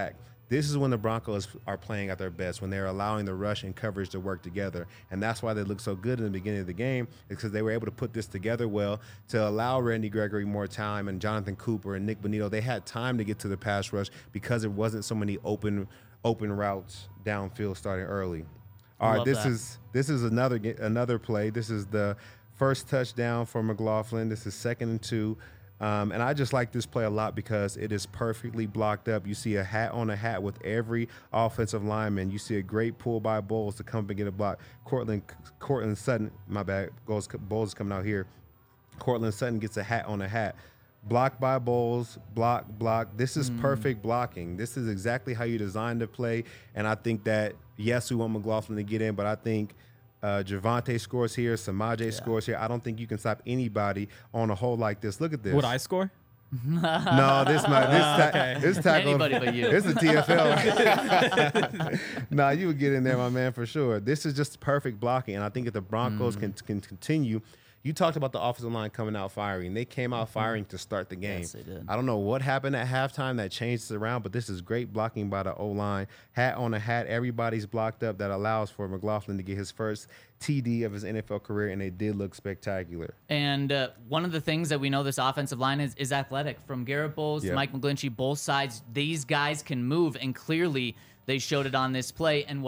This is when the Broncos are playing at their best, when they're allowing the rush and coverage to work together. And that's why they look so good in the beginning of the game, because they were able to put this together well to allow Randy Gregory more time, and Jonathan Cooper and Nick Bonito. They had time to get to the pass rush because it wasn't so many open routes downfield starting early. All right, this is another play. This is the first touchdown for McLaughlin. This is 2nd and 2. And I just like this play a lot because it is perfectly blocked up. You see a hat on a hat with every offensive lineman. You see a great pull by Bowles to come and get a block. Cortland Sutton, my bad, Bowles is coming out here. Cortland Sutton gets a hat on a hat. Blocked by Bowles, block. This is perfect blocking. This is exactly how you design the play. And I think that, yes, we want McLaughlin to get in, but I think Javonte scores here, Samaje scores here. I don't think you can stop anybody on a hole like this. Look at this. Would I score? No, this tackle. Anybody but you. This is TFL. Nah, you would get in there, my man, for sure. This is just perfect blocking, and I think if the Broncos can continue. You talked about the offensive line coming out firing. They came out firing to start the game. Yes, they did. I don't know what happened at halftime that changed it around, but this is great blocking by the O-line. Hat on a hat. Everybody's blocked up. That allows for McLaughlin to get his first TD of his NFL career, and they did look spectacular. And one of the things that we know this offensive line is athletic. From Garrett Bowles to Mike McGlinchey, both sides, these guys can move, and clearly they showed it on this play. And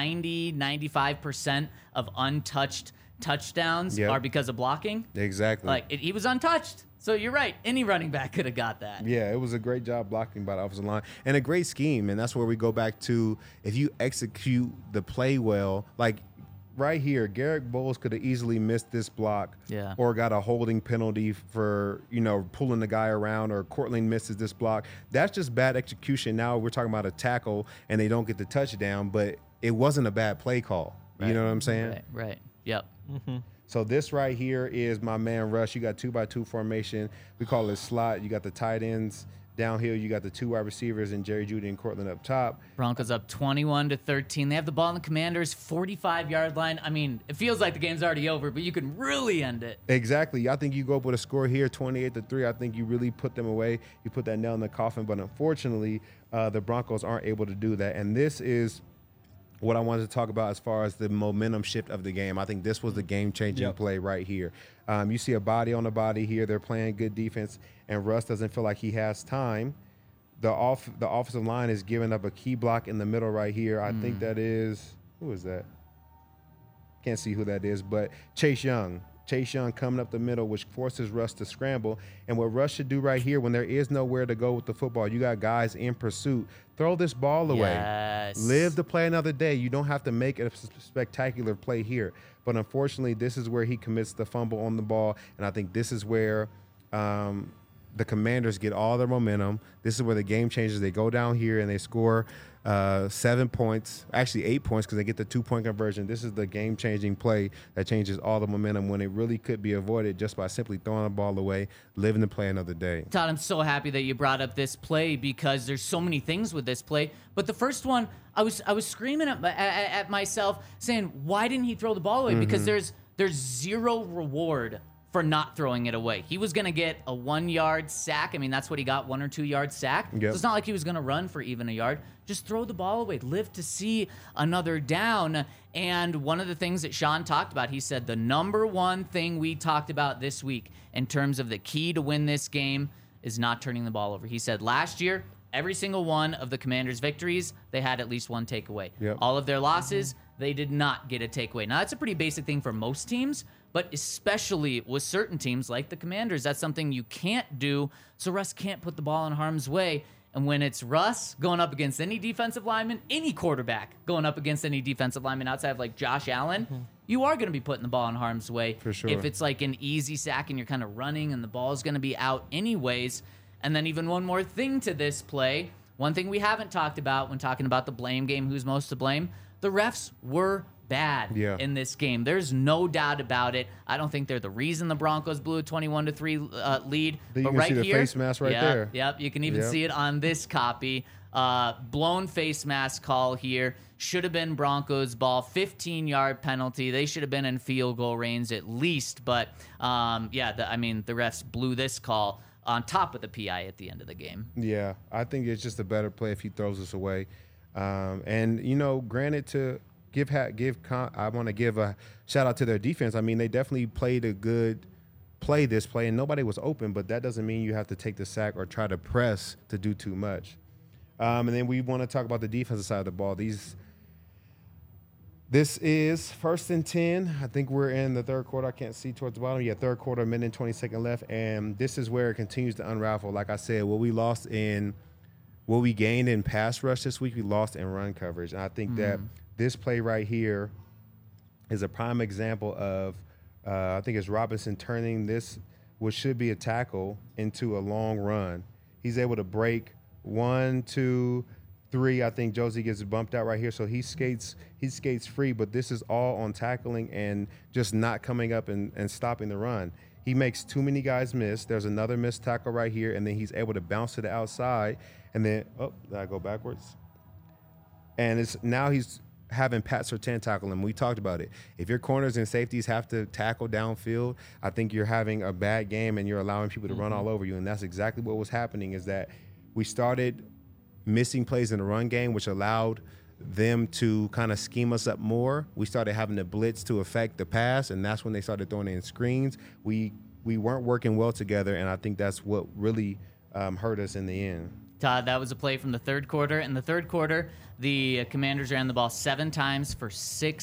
95% of untouched touchdowns are because of blocking. Exactly. He was untouched. So you're right. Any running back could have got that. Yeah, it was a great job blocking by the offensive line and a great scheme. And that's where we go back to, if you execute the play well, like right here, Garrett Bowles could have easily missed this block or got a holding penalty for, pulling the guy around, or Cortland misses this block. That's just bad execution. Now we're talking about a tackle and they don't get the touchdown, but it wasn't a bad play call. Right. You know what I'm saying? Right. Yep. Mm-hmm. So this right here is my man Rush. You got 2-by-2 formation. We call it slot. You got the tight ends downhill. You got the 2 wide receivers and Jerry Jeudy and Cortland up top. Broncos up 21-13. They have the ball on the Commanders' 45-yard line. I mean, it feels like the game's already over, but you can really end it. Exactly. I think you go up with a score here, 28-3. I think you really put them away. You put that nail in the coffin. But unfortunately, the Broncos aren't able to do that. And this is what I wanted to talk about as far as the momentum shift of the game. I think this was the game-changing play right here. You see a body on the body here. They're playing good defense, and Russ doesn't feel like he has time. The offensive line is giving up a key block in the middle right here. I think that is – who is that? Can't see who that is, but Chase Young. Chase Young coming up the middle, which forces Russ to scramble. And what Russ should do right here, when there is nowhere to go with the football, you got guys in pursuit, throw this ball away. Yes. Live to play another day. You don't have to make a spectacular play here. But unfortunately, this is where he commits the fumble on the ball. And I think this is where the Commanders get all their momentum. This is where the game changes. They go down here and they score 7 points, actually 8 points, because they get the 2-point conversion. This is the game-changing play that changes all the momentum when it really could be avoided just by simply throwing the ball away, living to play another day. Todd, I'm so happy that you brought up this play because there's so many things with this play. But the first one, I was screaming at myself saying, why didn't he throw the ball away? Because there's zero reward for not throwing it away. He was going to get a 1-yard sack. I mean, that's what he got, 1 or 2 yard sack. Yep. So it's not like he was going to run for even a yard. Just throw the ball away. Live to see another down. And one of the things that Sean talked about, he said the number one thing we talked about this week in terms of the key to win this game is not turning the ball over. He said last year, every single one of the Commanders' victories, they had at least one takeaway. Yep. All of their losses, they did not get a takeaway. Now, that's a pretty basic thing for most teams, but especially with certain teams like the Commanders, that's something you can't do, so Russ can't put the ball in harm's way. And when it's Russ going up against any defensive lineman, any quarterback going up against any defensive lineman outside of like Josh Allen, you are going to be putting the ball in harm's way. For sure. If it's like an easy sack and you're kind of running and the ball is going to be out anyways. And then even one more thing to this play, one thing we haven't talked about when talking about the blame game, who's most to blame, the refs were bad in this game. There's no doubt about it. I don't think they're the reason the Broncos blew a 21-3 lead. You but can right see the here, face mask right there. Yep, you can even see it on this copy. Blown face mask call here. Should have been Broncos ball. 15-yard penalty. They should have been in field goal range at least. But, the refs blew this call. on top of the PI at the end of the game. Yeah, I think it's just a better play if he throws us away. And granted, I want to give a shout out to their defense. I mean, they definitely played a good play this play, and nobody was open, but that doesn't mean you have to take the sack or try to press to do too much. And then we want to talk about the defensive side of the ball. This is 1st and 10. I think we're in the third quarter. I can't see towards the bottom. Yeah, third quarter, minute and 20 seconds left. And this is where it continues to unravel. Like I said, what we gained in pass rush this week, we lost in run coverage. And I think that this play right here is a prime example of, I think it's Robinson turning this, what should be a tackle, into a long run. He's able to break 1, 2, 3. I think Josie gets bumped out right here, so he skates free, but this is all on tackling and just not coming up and stopping the run. He makes too many guys miss. There's another missed tackle right here, and then he's able to bounce to the outside, and then, did I go backwards? And now he's having Pat Surtain tackle him. We talked about it. If your corners and safeties have to tackle downfield, I think you're having a bad game and you're allowing people to run all over you, and that's exactly what was happening, is that we started missing plays in the run game, which allowed them to kind of scheme us up more. We started having the blitz to affect the pass, and that's when they started throwing in screens. We weren't working well together, and I think that's what really hurt us in the end. Todd, that was a play from the third quarter. In the third quarter, the Commanders ran the ball 7 times for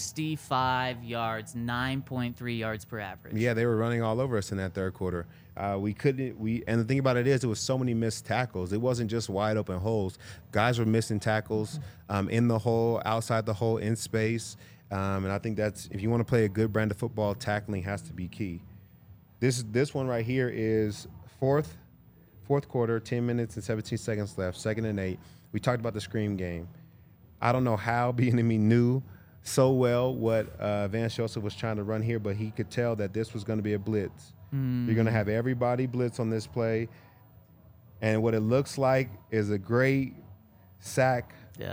65 yards, 9.3 yards per average. Yeah, they were running all over us in that third quarter. And the thing about it is, it was so many missed tackles. It wasn't just wide open holes. Guys were missing tackles in the hole, outside the hole, in space. And I think that's, if you want to play a good brand of football, tackling has to be key. This one right here is fourth quarter, 10 minutes and 17 seconds left, 2nd and 8. We talked about the screen game. I don't know how Bieniemy knew so well what Vance Joseph was trying to run here, but he could tell that this was going to be a blitz. You're going to have everybody blitz on this play, and what it looks like is a great sack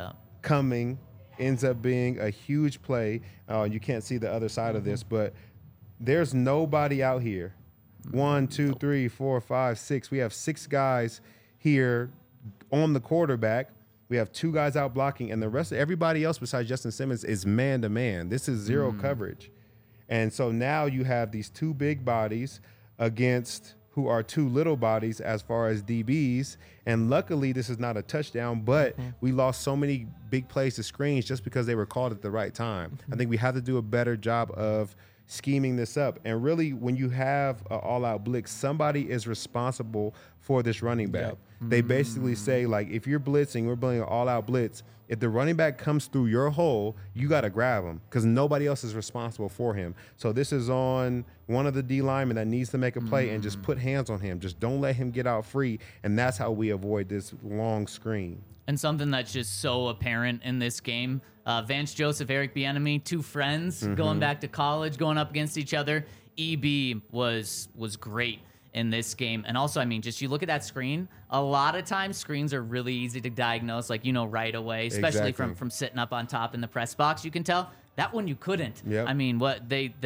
coming, ends up being a huge play. You can't see the other side of this, but there's nobody out here. 1, 2, 3, 4, 5, 6. We have 6 guys here on the quarterback. We have 2 guys out blocking, and the rest of everybody else besides Justin Simmons is man-to-man. This is zero coverage. And so now you have these 2 big bodies against who are 2 little bodies as far as DBs. And luckily, this is not a touchdown, but we lost so many big plays to screens just because they were called at the right time. I think we have to do a better job of scheming this up. And really, when you have an all-out blitz, somebody is responsible for this running back. Yep. They basically say, like, if you're blitzing, we're building an all-out blitz, if the running back comes through your hole, you got to grab him because nobody else is responsible for him. So this is on one of the D linemen that needs to make a play and just put hands on him. Just don't let him get out free, and that's how we avoid this long screen. And something that's just so apparent in this game, Vance Joseph, Eric Bieniemy, 2 friends going back to college, going up against each other. EB was great in this game. And also, I mean, just you look at that screen, a lot of times screens are really easy to diagnose, like, right away, especially from sitting up on top in the press box. You can tell. That one you couldn't. Yep. I mean, what they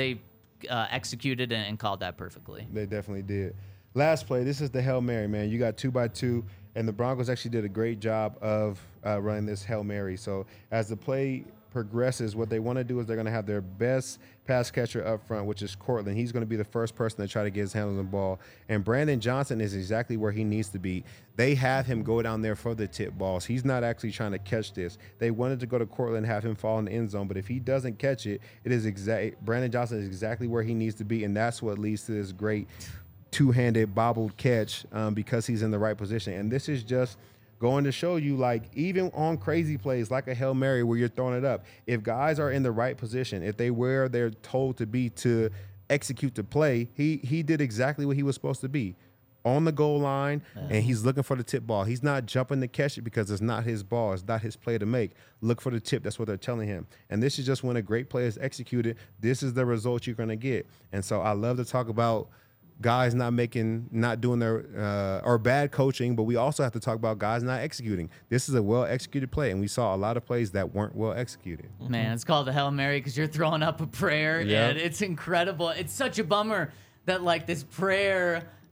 executed and called that perfectly. They definitely did. Last play, this is the Hail Mary, man. You got 2x2. And the Broncos actually did a great job of running this Hail Mary. So as the play progresses, what they want to do is they're going to have their best pass catcher up front, which is Cortland. He's going to be the first person to try to get his hands on the ball. And Brandon Johnson is exactly where he needs to be. They have him go down there for the tip balls. He's not actually trying to catch this. They wanted to go to Cortland and have him fall in the end zone, but if he doesn't catch it, Brandon Johnson is exactly where he needs to be, and that's what leads to this great two-handed bobbled catch because he's in the right position. And this is just going to show you, like, even on crazy plays like a Hail Mary where you're throwing it up, if guys are in the right position, if they where they're told to be to execute the play, he did exactly what he was supposed to be, on the goal line, and he's looking for the tip ball. He's not jumping to catch it because it's not his ball. It's not his play to make. Look for the tip. That's what they're telling him. And this is just when a great play is executed, this is the result you're going to get. And so I love to talk about guys not doing their or bad coaching, but we also have to talk about guys not executing. This is a well-executed play, and we saw a lot of plays that weren't well executed. Man, it's called the Hail Mary because you're throwing up a prayer, and it's incredible. It's such a bummer that, like, this prayer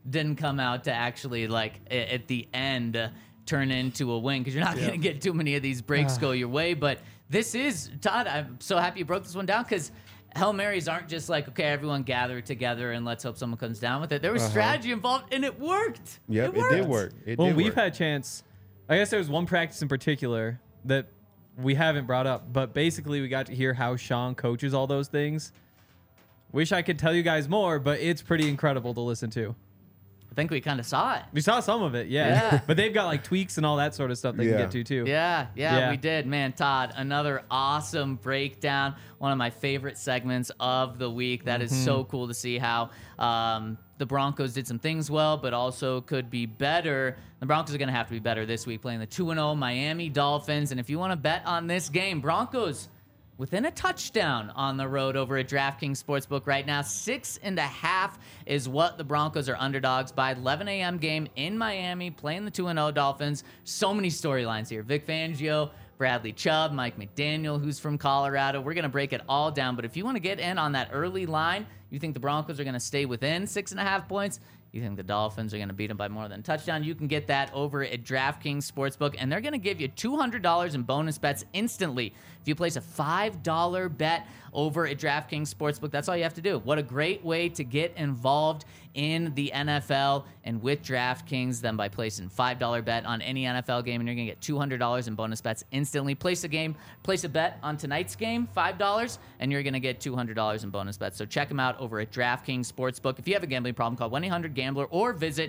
didn't come out to actually, like, at the end turn into a win, because you're not going to get too many of these breaks go your way. But this is, Todd, I'm so happy you broke this one down, because Hail Marys aren't just like, okay, everyone gather together and let's hope someone comes down with it. There was strategy involved, and it worked. Yep, it did work. We've had a chance. I guess there was one practice in particular that we haven't brought up, but basically we got to hear how Sean coaches all those things. Wish I could tell you guys more, but it's pretty incredible to listen to. I think we kind of saw it. We saw some of it, yeah. But they've got like tweaks and all that sort of stuff they can get to too. Yeah, we did. Man, Todd, another awesome breakdown. One of my favorite segments of the week. That is so cool to see how the Broncos did some things well, but also could be better. The Broncos are going to have to be better this week, playing the 2-0 Miami Dolphins. And if you want to bet on this game, Broncos within a touchdown on the road over at DraftKings Sportsbook right now. 6.5 is what the Broncos are underdogs by. 11 a.m. game in Miami, playing the 2-0 Dolphins. So many storylines here. Vic Fangio, Bradley Chubb, Mike McDaniel, who's from Colorado. We're going to break it all down. But if you want to get in on that early line, you think the Broncos are going to stay within 6.5 points, you think the Dolphins are going to beat them by more than a touchdown, you can get that over at DraftKings Sportsbook, and they're going to give you $200 in bonus bets instantly if you place a $5 bet over at DraftKings Sportsbook. That's all you have to do. What a great way to get involved in the NFL and with DraftKings than by placing $5 bet on any NFL game, and you're going to get $200 in bonus bets instantly. Place a bet on tonight's game, $5, and you're going to get $200 in bonus bets. So check them out over at DraftKings Sportsbook. If you have a gambling problem, call 1-800-GAMBLER or visit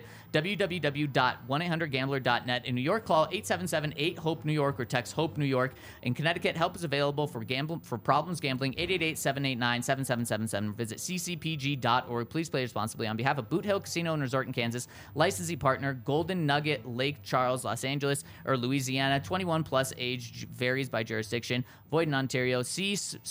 www.1800gambler.net. In New York, call 877-8-HOPE-NEW YORK or text HOPE-NEW YORK. In Connecticut, help is available for problems gambling, 888-789-7777. Visit ccpg.org. Please play responsibly. On behalf of Boot Hill Casino and Resort in Kansas, licensee partner Golden Nugget, Lake Charles, Los Angeles, or Louisiana. 21 plus age varies by jurisdiction. Void in Ontario. See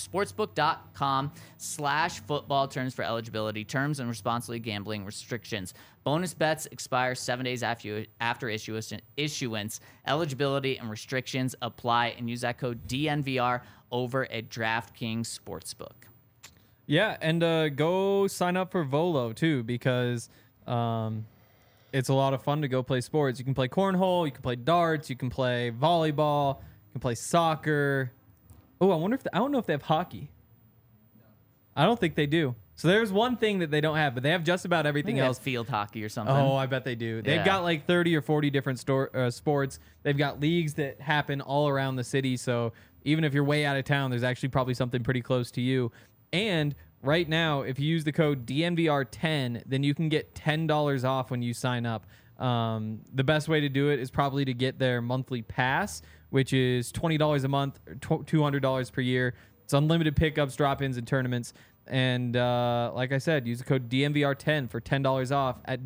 sportsbook.com/football. Terms for eligibility, terms and responsibly gambling restrictions. Bonus bets expire 7 days after issuance. Eligibility and restrictions apply, and use that code DNVR over at DraftKings Sportsbook. Yeah, and go sign up for Volo too, because it's a lot of fun to go play sports. You can play cornhole, you can play darts, you can play volleyball, you can play soccer. Oh, I don't know if they have hockey. I don't think they do. So there's one thing that they don't have, but they have just about everything else. Field hockey or something. Oh, I bet they do. They've got like 30 or 40 different sports. They've got leagues that happen all around the city. So even if you're way out of town, there's actually probably something pretty close to you. And right now, if you use the code DNVR10, then you can get $10 off when you sign up. The best way to do it is probably to get their monthly pass, which is $20 a month, or $200 per year. It's unlimited pickups, drop-ins, and tournaments. And like I said, use the code DNVR10 for $10 off at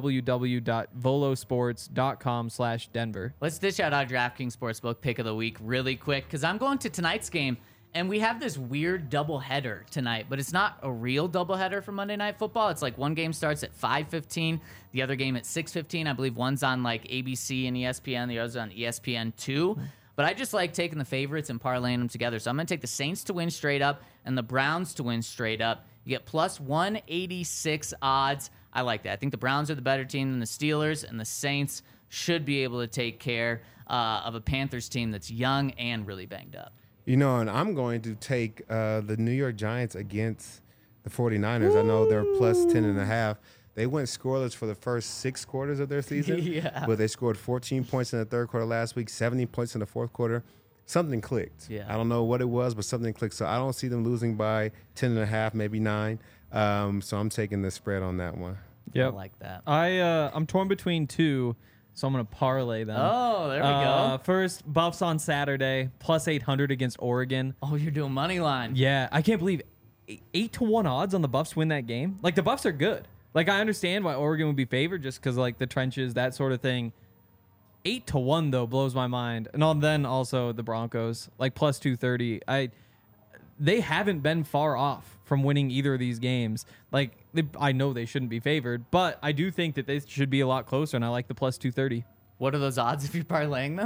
www.volosports.com/Denver. Let's dish out our DraftKings Sportsbook pick of the week really quick, because I'm going to tonight's game, and we have this weird doubleheader tonight, but it's not a real doubleheader for Monday Night Football. It's like one game starts at 5:15, the other game at 6:15. I believe one's on like ABC and ESPN, the other's on ESPN2. But I just like taking the favorites and parlaying them together. So I'm going to take the Saints to win straight up and the Browns to win straight up. You get plus 186 odds. I like that. I think the Browns are the better team than the Steelers, and the Saints should be able to take care of a Panthers team that's young and really banged up. You know, and I'm going to take the New York Giants against the 49ers. I know they're plus 10.5. They went scoreless for the first 6 quarters of their season, but they scored 14 points in the third quarter last week, 17 points in the fourth quarter. Something clicked. Yeah. I don't know what it was, but something clicked. So I don't see them losing by 10.5, maybe 9. So I'm taking the spread on that one. Yep. I like that. I'm torn between two, so I'm going to parlay them. Oh, there we go. First, Buffs on Saturday, plus 800 against Oregon. Oh, you're doing money line. Yeah, I can't believe 8-1 odds on the Buffs win that game. Like, the Buffs are good. Like, I understand why Oregon would be favored just because, like, the trenches, that sort of thing. 8-1, though, blows my mind. And then also the Broncos, like, plus 230. They haven't been far off from winning either of these games. Like, I know they shouldn't be favored, but I do think that they should be a lot closer, and I like the plus 230. What are those odds if you're parlaying them?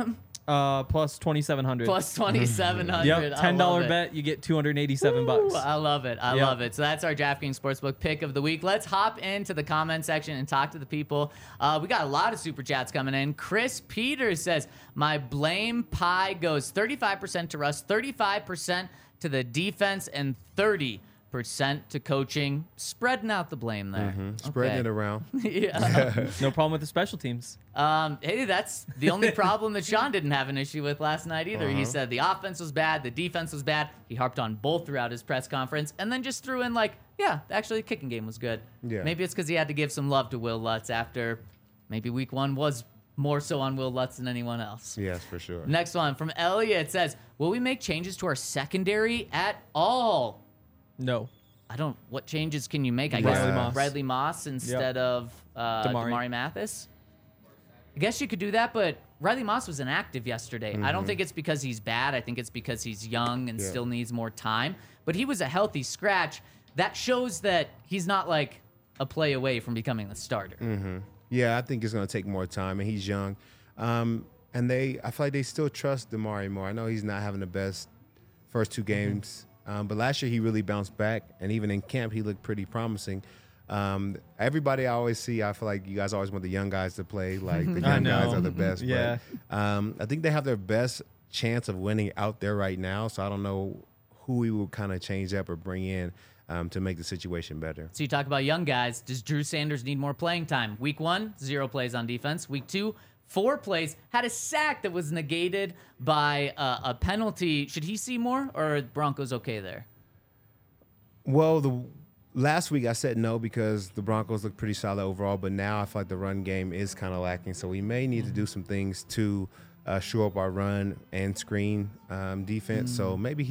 Plus 2,700. Plus 2,700. Yep, $10 bet, you get $287. I love it. I love it. So that's our DraftKings Sportsbook pick of the week. Let's hop into the comment section and talk to the people. We got a lot of super chats coming in. Chris Peters says, my blame pie goes 35% to Russ, 35% to the defense, and 30% to coaching. Spreading out the blame there. Spreading it around. Yeah. No problem with the special teams. Hey, that's the only problem that Sean didn't have an issue with last night either. He said the offense was bad, the defense was bad. He harped on both throughout his press conference, and then just threw in like, yeah, actually the kicking game was good. Yeah. Maybe it's because he had to give some love to Will Lutz after maybe week 1 was more so on Will Lutz than anyone else. Yes, for sure. Next one from Elliot says, will we make changes to our secondary at all? No. What changes can you make? I Riley guess Moss. Riley Moss instead of Damari Mathis. I guess you could do that, but Riley Moss was inactive yesterday. I don't think it's because he's bad. I think it's because he's young and still needs more time. But he was a healthy scratch. That shows that he's not like a play away from becoming the starter. Yeah, I think it's going to take more time, and he's young. And I feel like they still trust Damari more. I know he's not having the best first 2 games. But last year he really bounced back, and even in camp he looked pretty promising. Everybody I always see, I feel like you guys always want the young guys to play. Like the young guys are the best. Yeah. But, I think they have their best chance of winning out there right now. So I don't know who we will kind of change up or bring in to make the situation better. So you talk about young guys. Does Drew Sanders need more playing time? Week 1, 0 plays on defense. Week 2, 4 plays, had a sack that was negated by a penalty. Should he see more, or are Broncos okay there? Well, last week I said no because the Broncos look pretty solid overall, but now I feel like the run game is kind of lacking. So we may need to do some things to shore up our run and screen defense. So maybe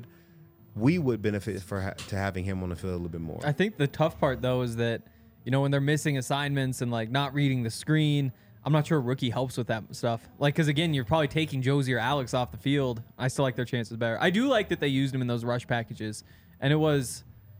we would benefit to having him on the field a little bit more. I think the tough part, though, is that, when they're missing assignments and, like, not reading the screen, I'm not sure a rookie helps with that stuff. Like, because, again, you're probably taking Josie or Alex off the field. I still like their chances better. I do like that they used him in those rush packages. And it was...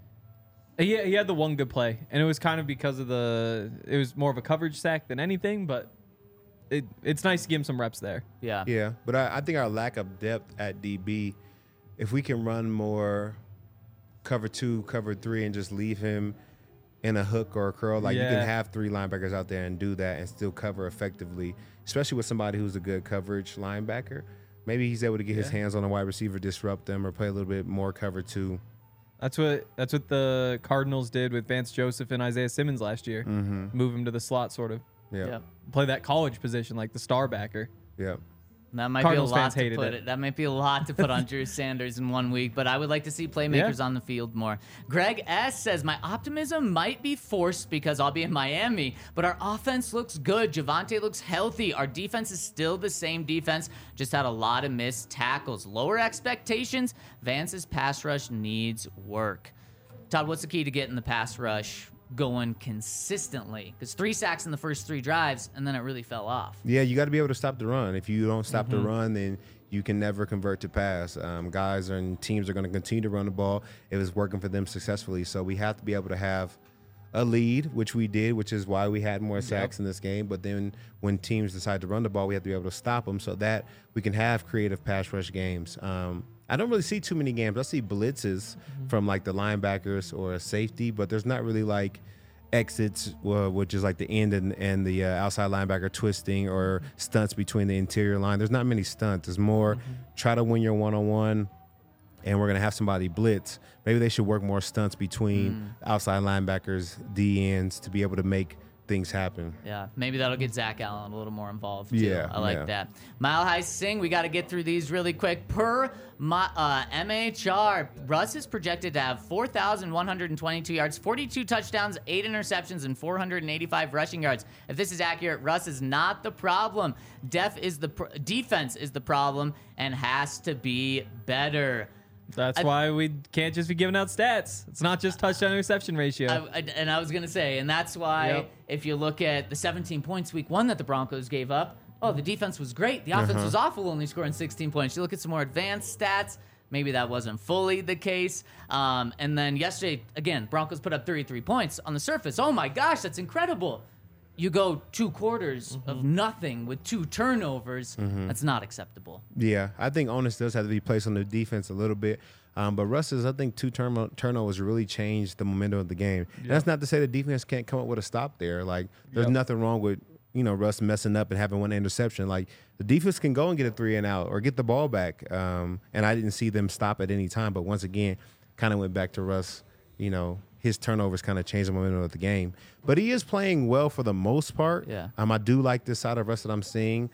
He had the one good play. And it was kind of because of it was more of a coverage sack than anything, but it's nice to give him some reps there. Yeah. Yeah, but I think our lack of depth at DB, if we can run more cover 2, cover 3, and just leave him in a hook or a curl, like you can have 3 linebackers out there and do that and still cover effectively, especially with somebody who's a good coverage linebacker. Maybe he's able to get his hands on a wide receiver, disrupt them, or play a little bit more cover 2. That's what the Cardinals did with Vance Joseph and Isaiah Simmons last year. Move him to the slot, sort of. Yeah. Play that college position like the star backer. Yeah. That might Cardinals be a lot fans to hated put it. That might be a lot to put on Drew Sanders in 1 week, but I would like to see playmakers on the field more. Greg S. says, my optimism might be forced because I'll be in Miami, but our offense looks good. Javonte looks healthy. Our defense is still the same defense, just had a lot of missed tackles. Lower expectations. Vance's pass rush needs work. Todd, what's the key to getting the pass rush going consistently? Because 3 sacks in the first 3 drives, and then it really fell off. Yeah, you got to be able to stop the run. If you don't stop the run, then you can never convert to pass. Guys and teams are going to continue to run the ball if it's working for them successfully. So we have to be able to have a lead, which we did, which is why we had more sacks in this game. But then when teams decide to run the ball, we have to be able to stop them so that we can have creative pass rush games. I don't really see too many games. I see blitzes from like the linebackers or a safety, but there's not really like exits, which is like the end and the outside linebacker twisting, or stunts between the interior line. There's not many stunts. There's more try to win your one-on-one, and we're going to have somebody blitz. Maybe they should work more stunts between outside linebackers, D-ends, to be able to make things happen. Yeah, maybe that'll get Zach Allen a little more involved too. Yeah, I like that. Mile High Sing, we got to get through these really quick. Per MHR, Russ is projected to have 4,122 yards, 42 touchdowns, 8 interceptions, and 485 rushing yards. If this is accurate, Russ is not the problem. Defense is the problem and has to be better. That's why we can't just be giving out stats. It's not just touchdown interception ratio. I was going to say, and that's why if you look at the 17 points week 1 that the Broncos gave up, the defense was great. The offense was awful, only scoring 16 points. You look at some more advanced stats, maybe that wasn't fully the case. And then yesterday, again, Broncos put up 33 points on the surface. Oh my gosh, that's incredible. you go 2 quarters of nothing with 2 turnovers. That's not acceptable. Yeah, I think onus does have to be placed on the defense a little bit. But Russ's, I think, 2 turnovers really changed the momentum of the game. Yeah. That's not to say the defense can't come up with a stop there. Like, there's nothing wrong with, Russ messing up and having 1 interception. Like, the defense can go and get a 3 and out or get the ball back. And I didn't see them stop at any time. But once again, kind of went back to Russ, his turnovers kind of changed the momentum of the game. But he is playing well for the most part. Yeah. I do like this side of Russ that I'm seeing.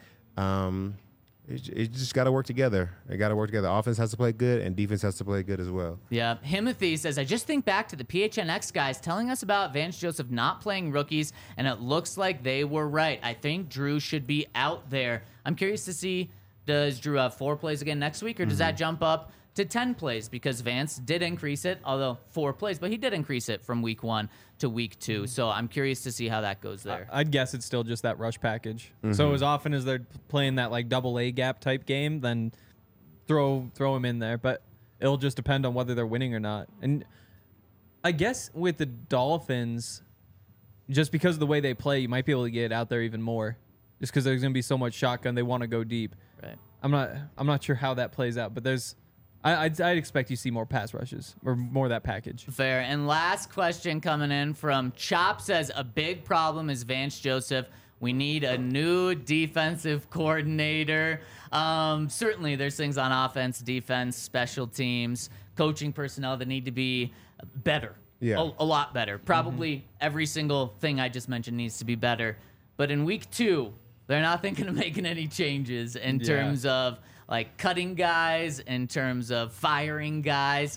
It just got to work together. It got to work together. Offense has to play good, and defense has to play good as well. Yeah. Himothy says, I just think back to the PHNX guys telling us about Vance Joseph not playing rookies, and it looks like they were right. I think Drew should be out there. I'm curious to see, does Drew have 4 plays again next week, or does that jump up to 10 plays? Because Vance did increase it, although 4 plays, but he did increase it from week 1 to week 2. So I'm curious to see how that goes there. I'd guess it's still just that rush package. So as often as they're playing that like double A gap type game, then throw him in there. But it'll just depend on whether they're winning or not. And I guess with the Dolphins, just because of the way they play, you might be able to get out there even more. Just because there's going to be so much shotgun, they want to go deep. Right. I'm not sure how that plays out, but I'd expect you to see more pass rushes or more of that package. Fair. And last question coming in from Chop says, a big problem is Vance Joseph. We need a new defensive coordinator. Certainly there's things on offense, defense, special teams, coaching personnel that need to be better. Yeah. A lot better. Probably every single thing I just mentioned needs to be better. But in week 2, they're not thinking of making any changes in terms of like cutting guys, in terms of firing guys.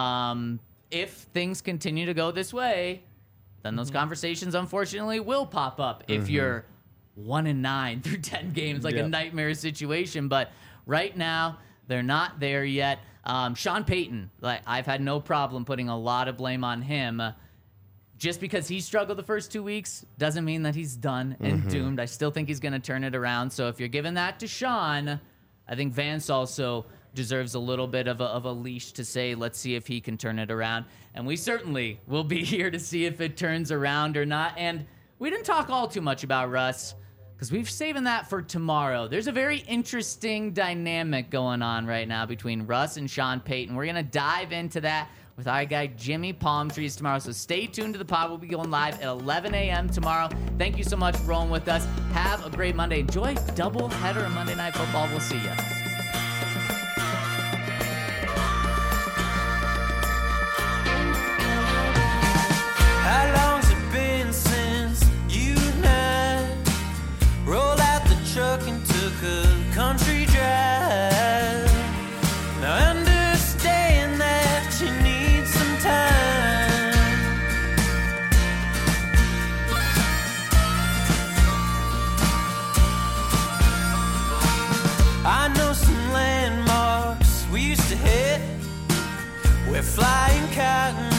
If things continue to go this way, then those conversations unfortunately will pop up if you're 1-9 through 10 games, like a nightmare situation. But right now, they're not there yet. Sean Payton, like I've had no problem putting a lot of blame on him. Just because he struggled the first 2 weeks doesn't mean that he's done and doomed. I still think he's going to turn it around. So if you're giving that to Sean, I think Vance also deserves a little bit of a leash to say, let's see if he can turn it around. And we certainly will be here to see if it turns around or not. And we didn't talk all too much about Russ because we've saving that for tomorrow. There's a very interesting dynamic going on right now between Russ and Sean Payton. We're going to dive into that with our guy Jimmy Palmtrees tomorrow. So stay tuned to the pod. We'll be going live at 11 a.m. tomorrow. Thank you so much for rolling with us. Have a great Monday. Enjoy doubleheader of Monday Night Football. We'll see you. How long's it been since you and I rolled out the truck and took a country drive? Now I understand that you need some time. I know some landmarks we used to hit. We're flying cotton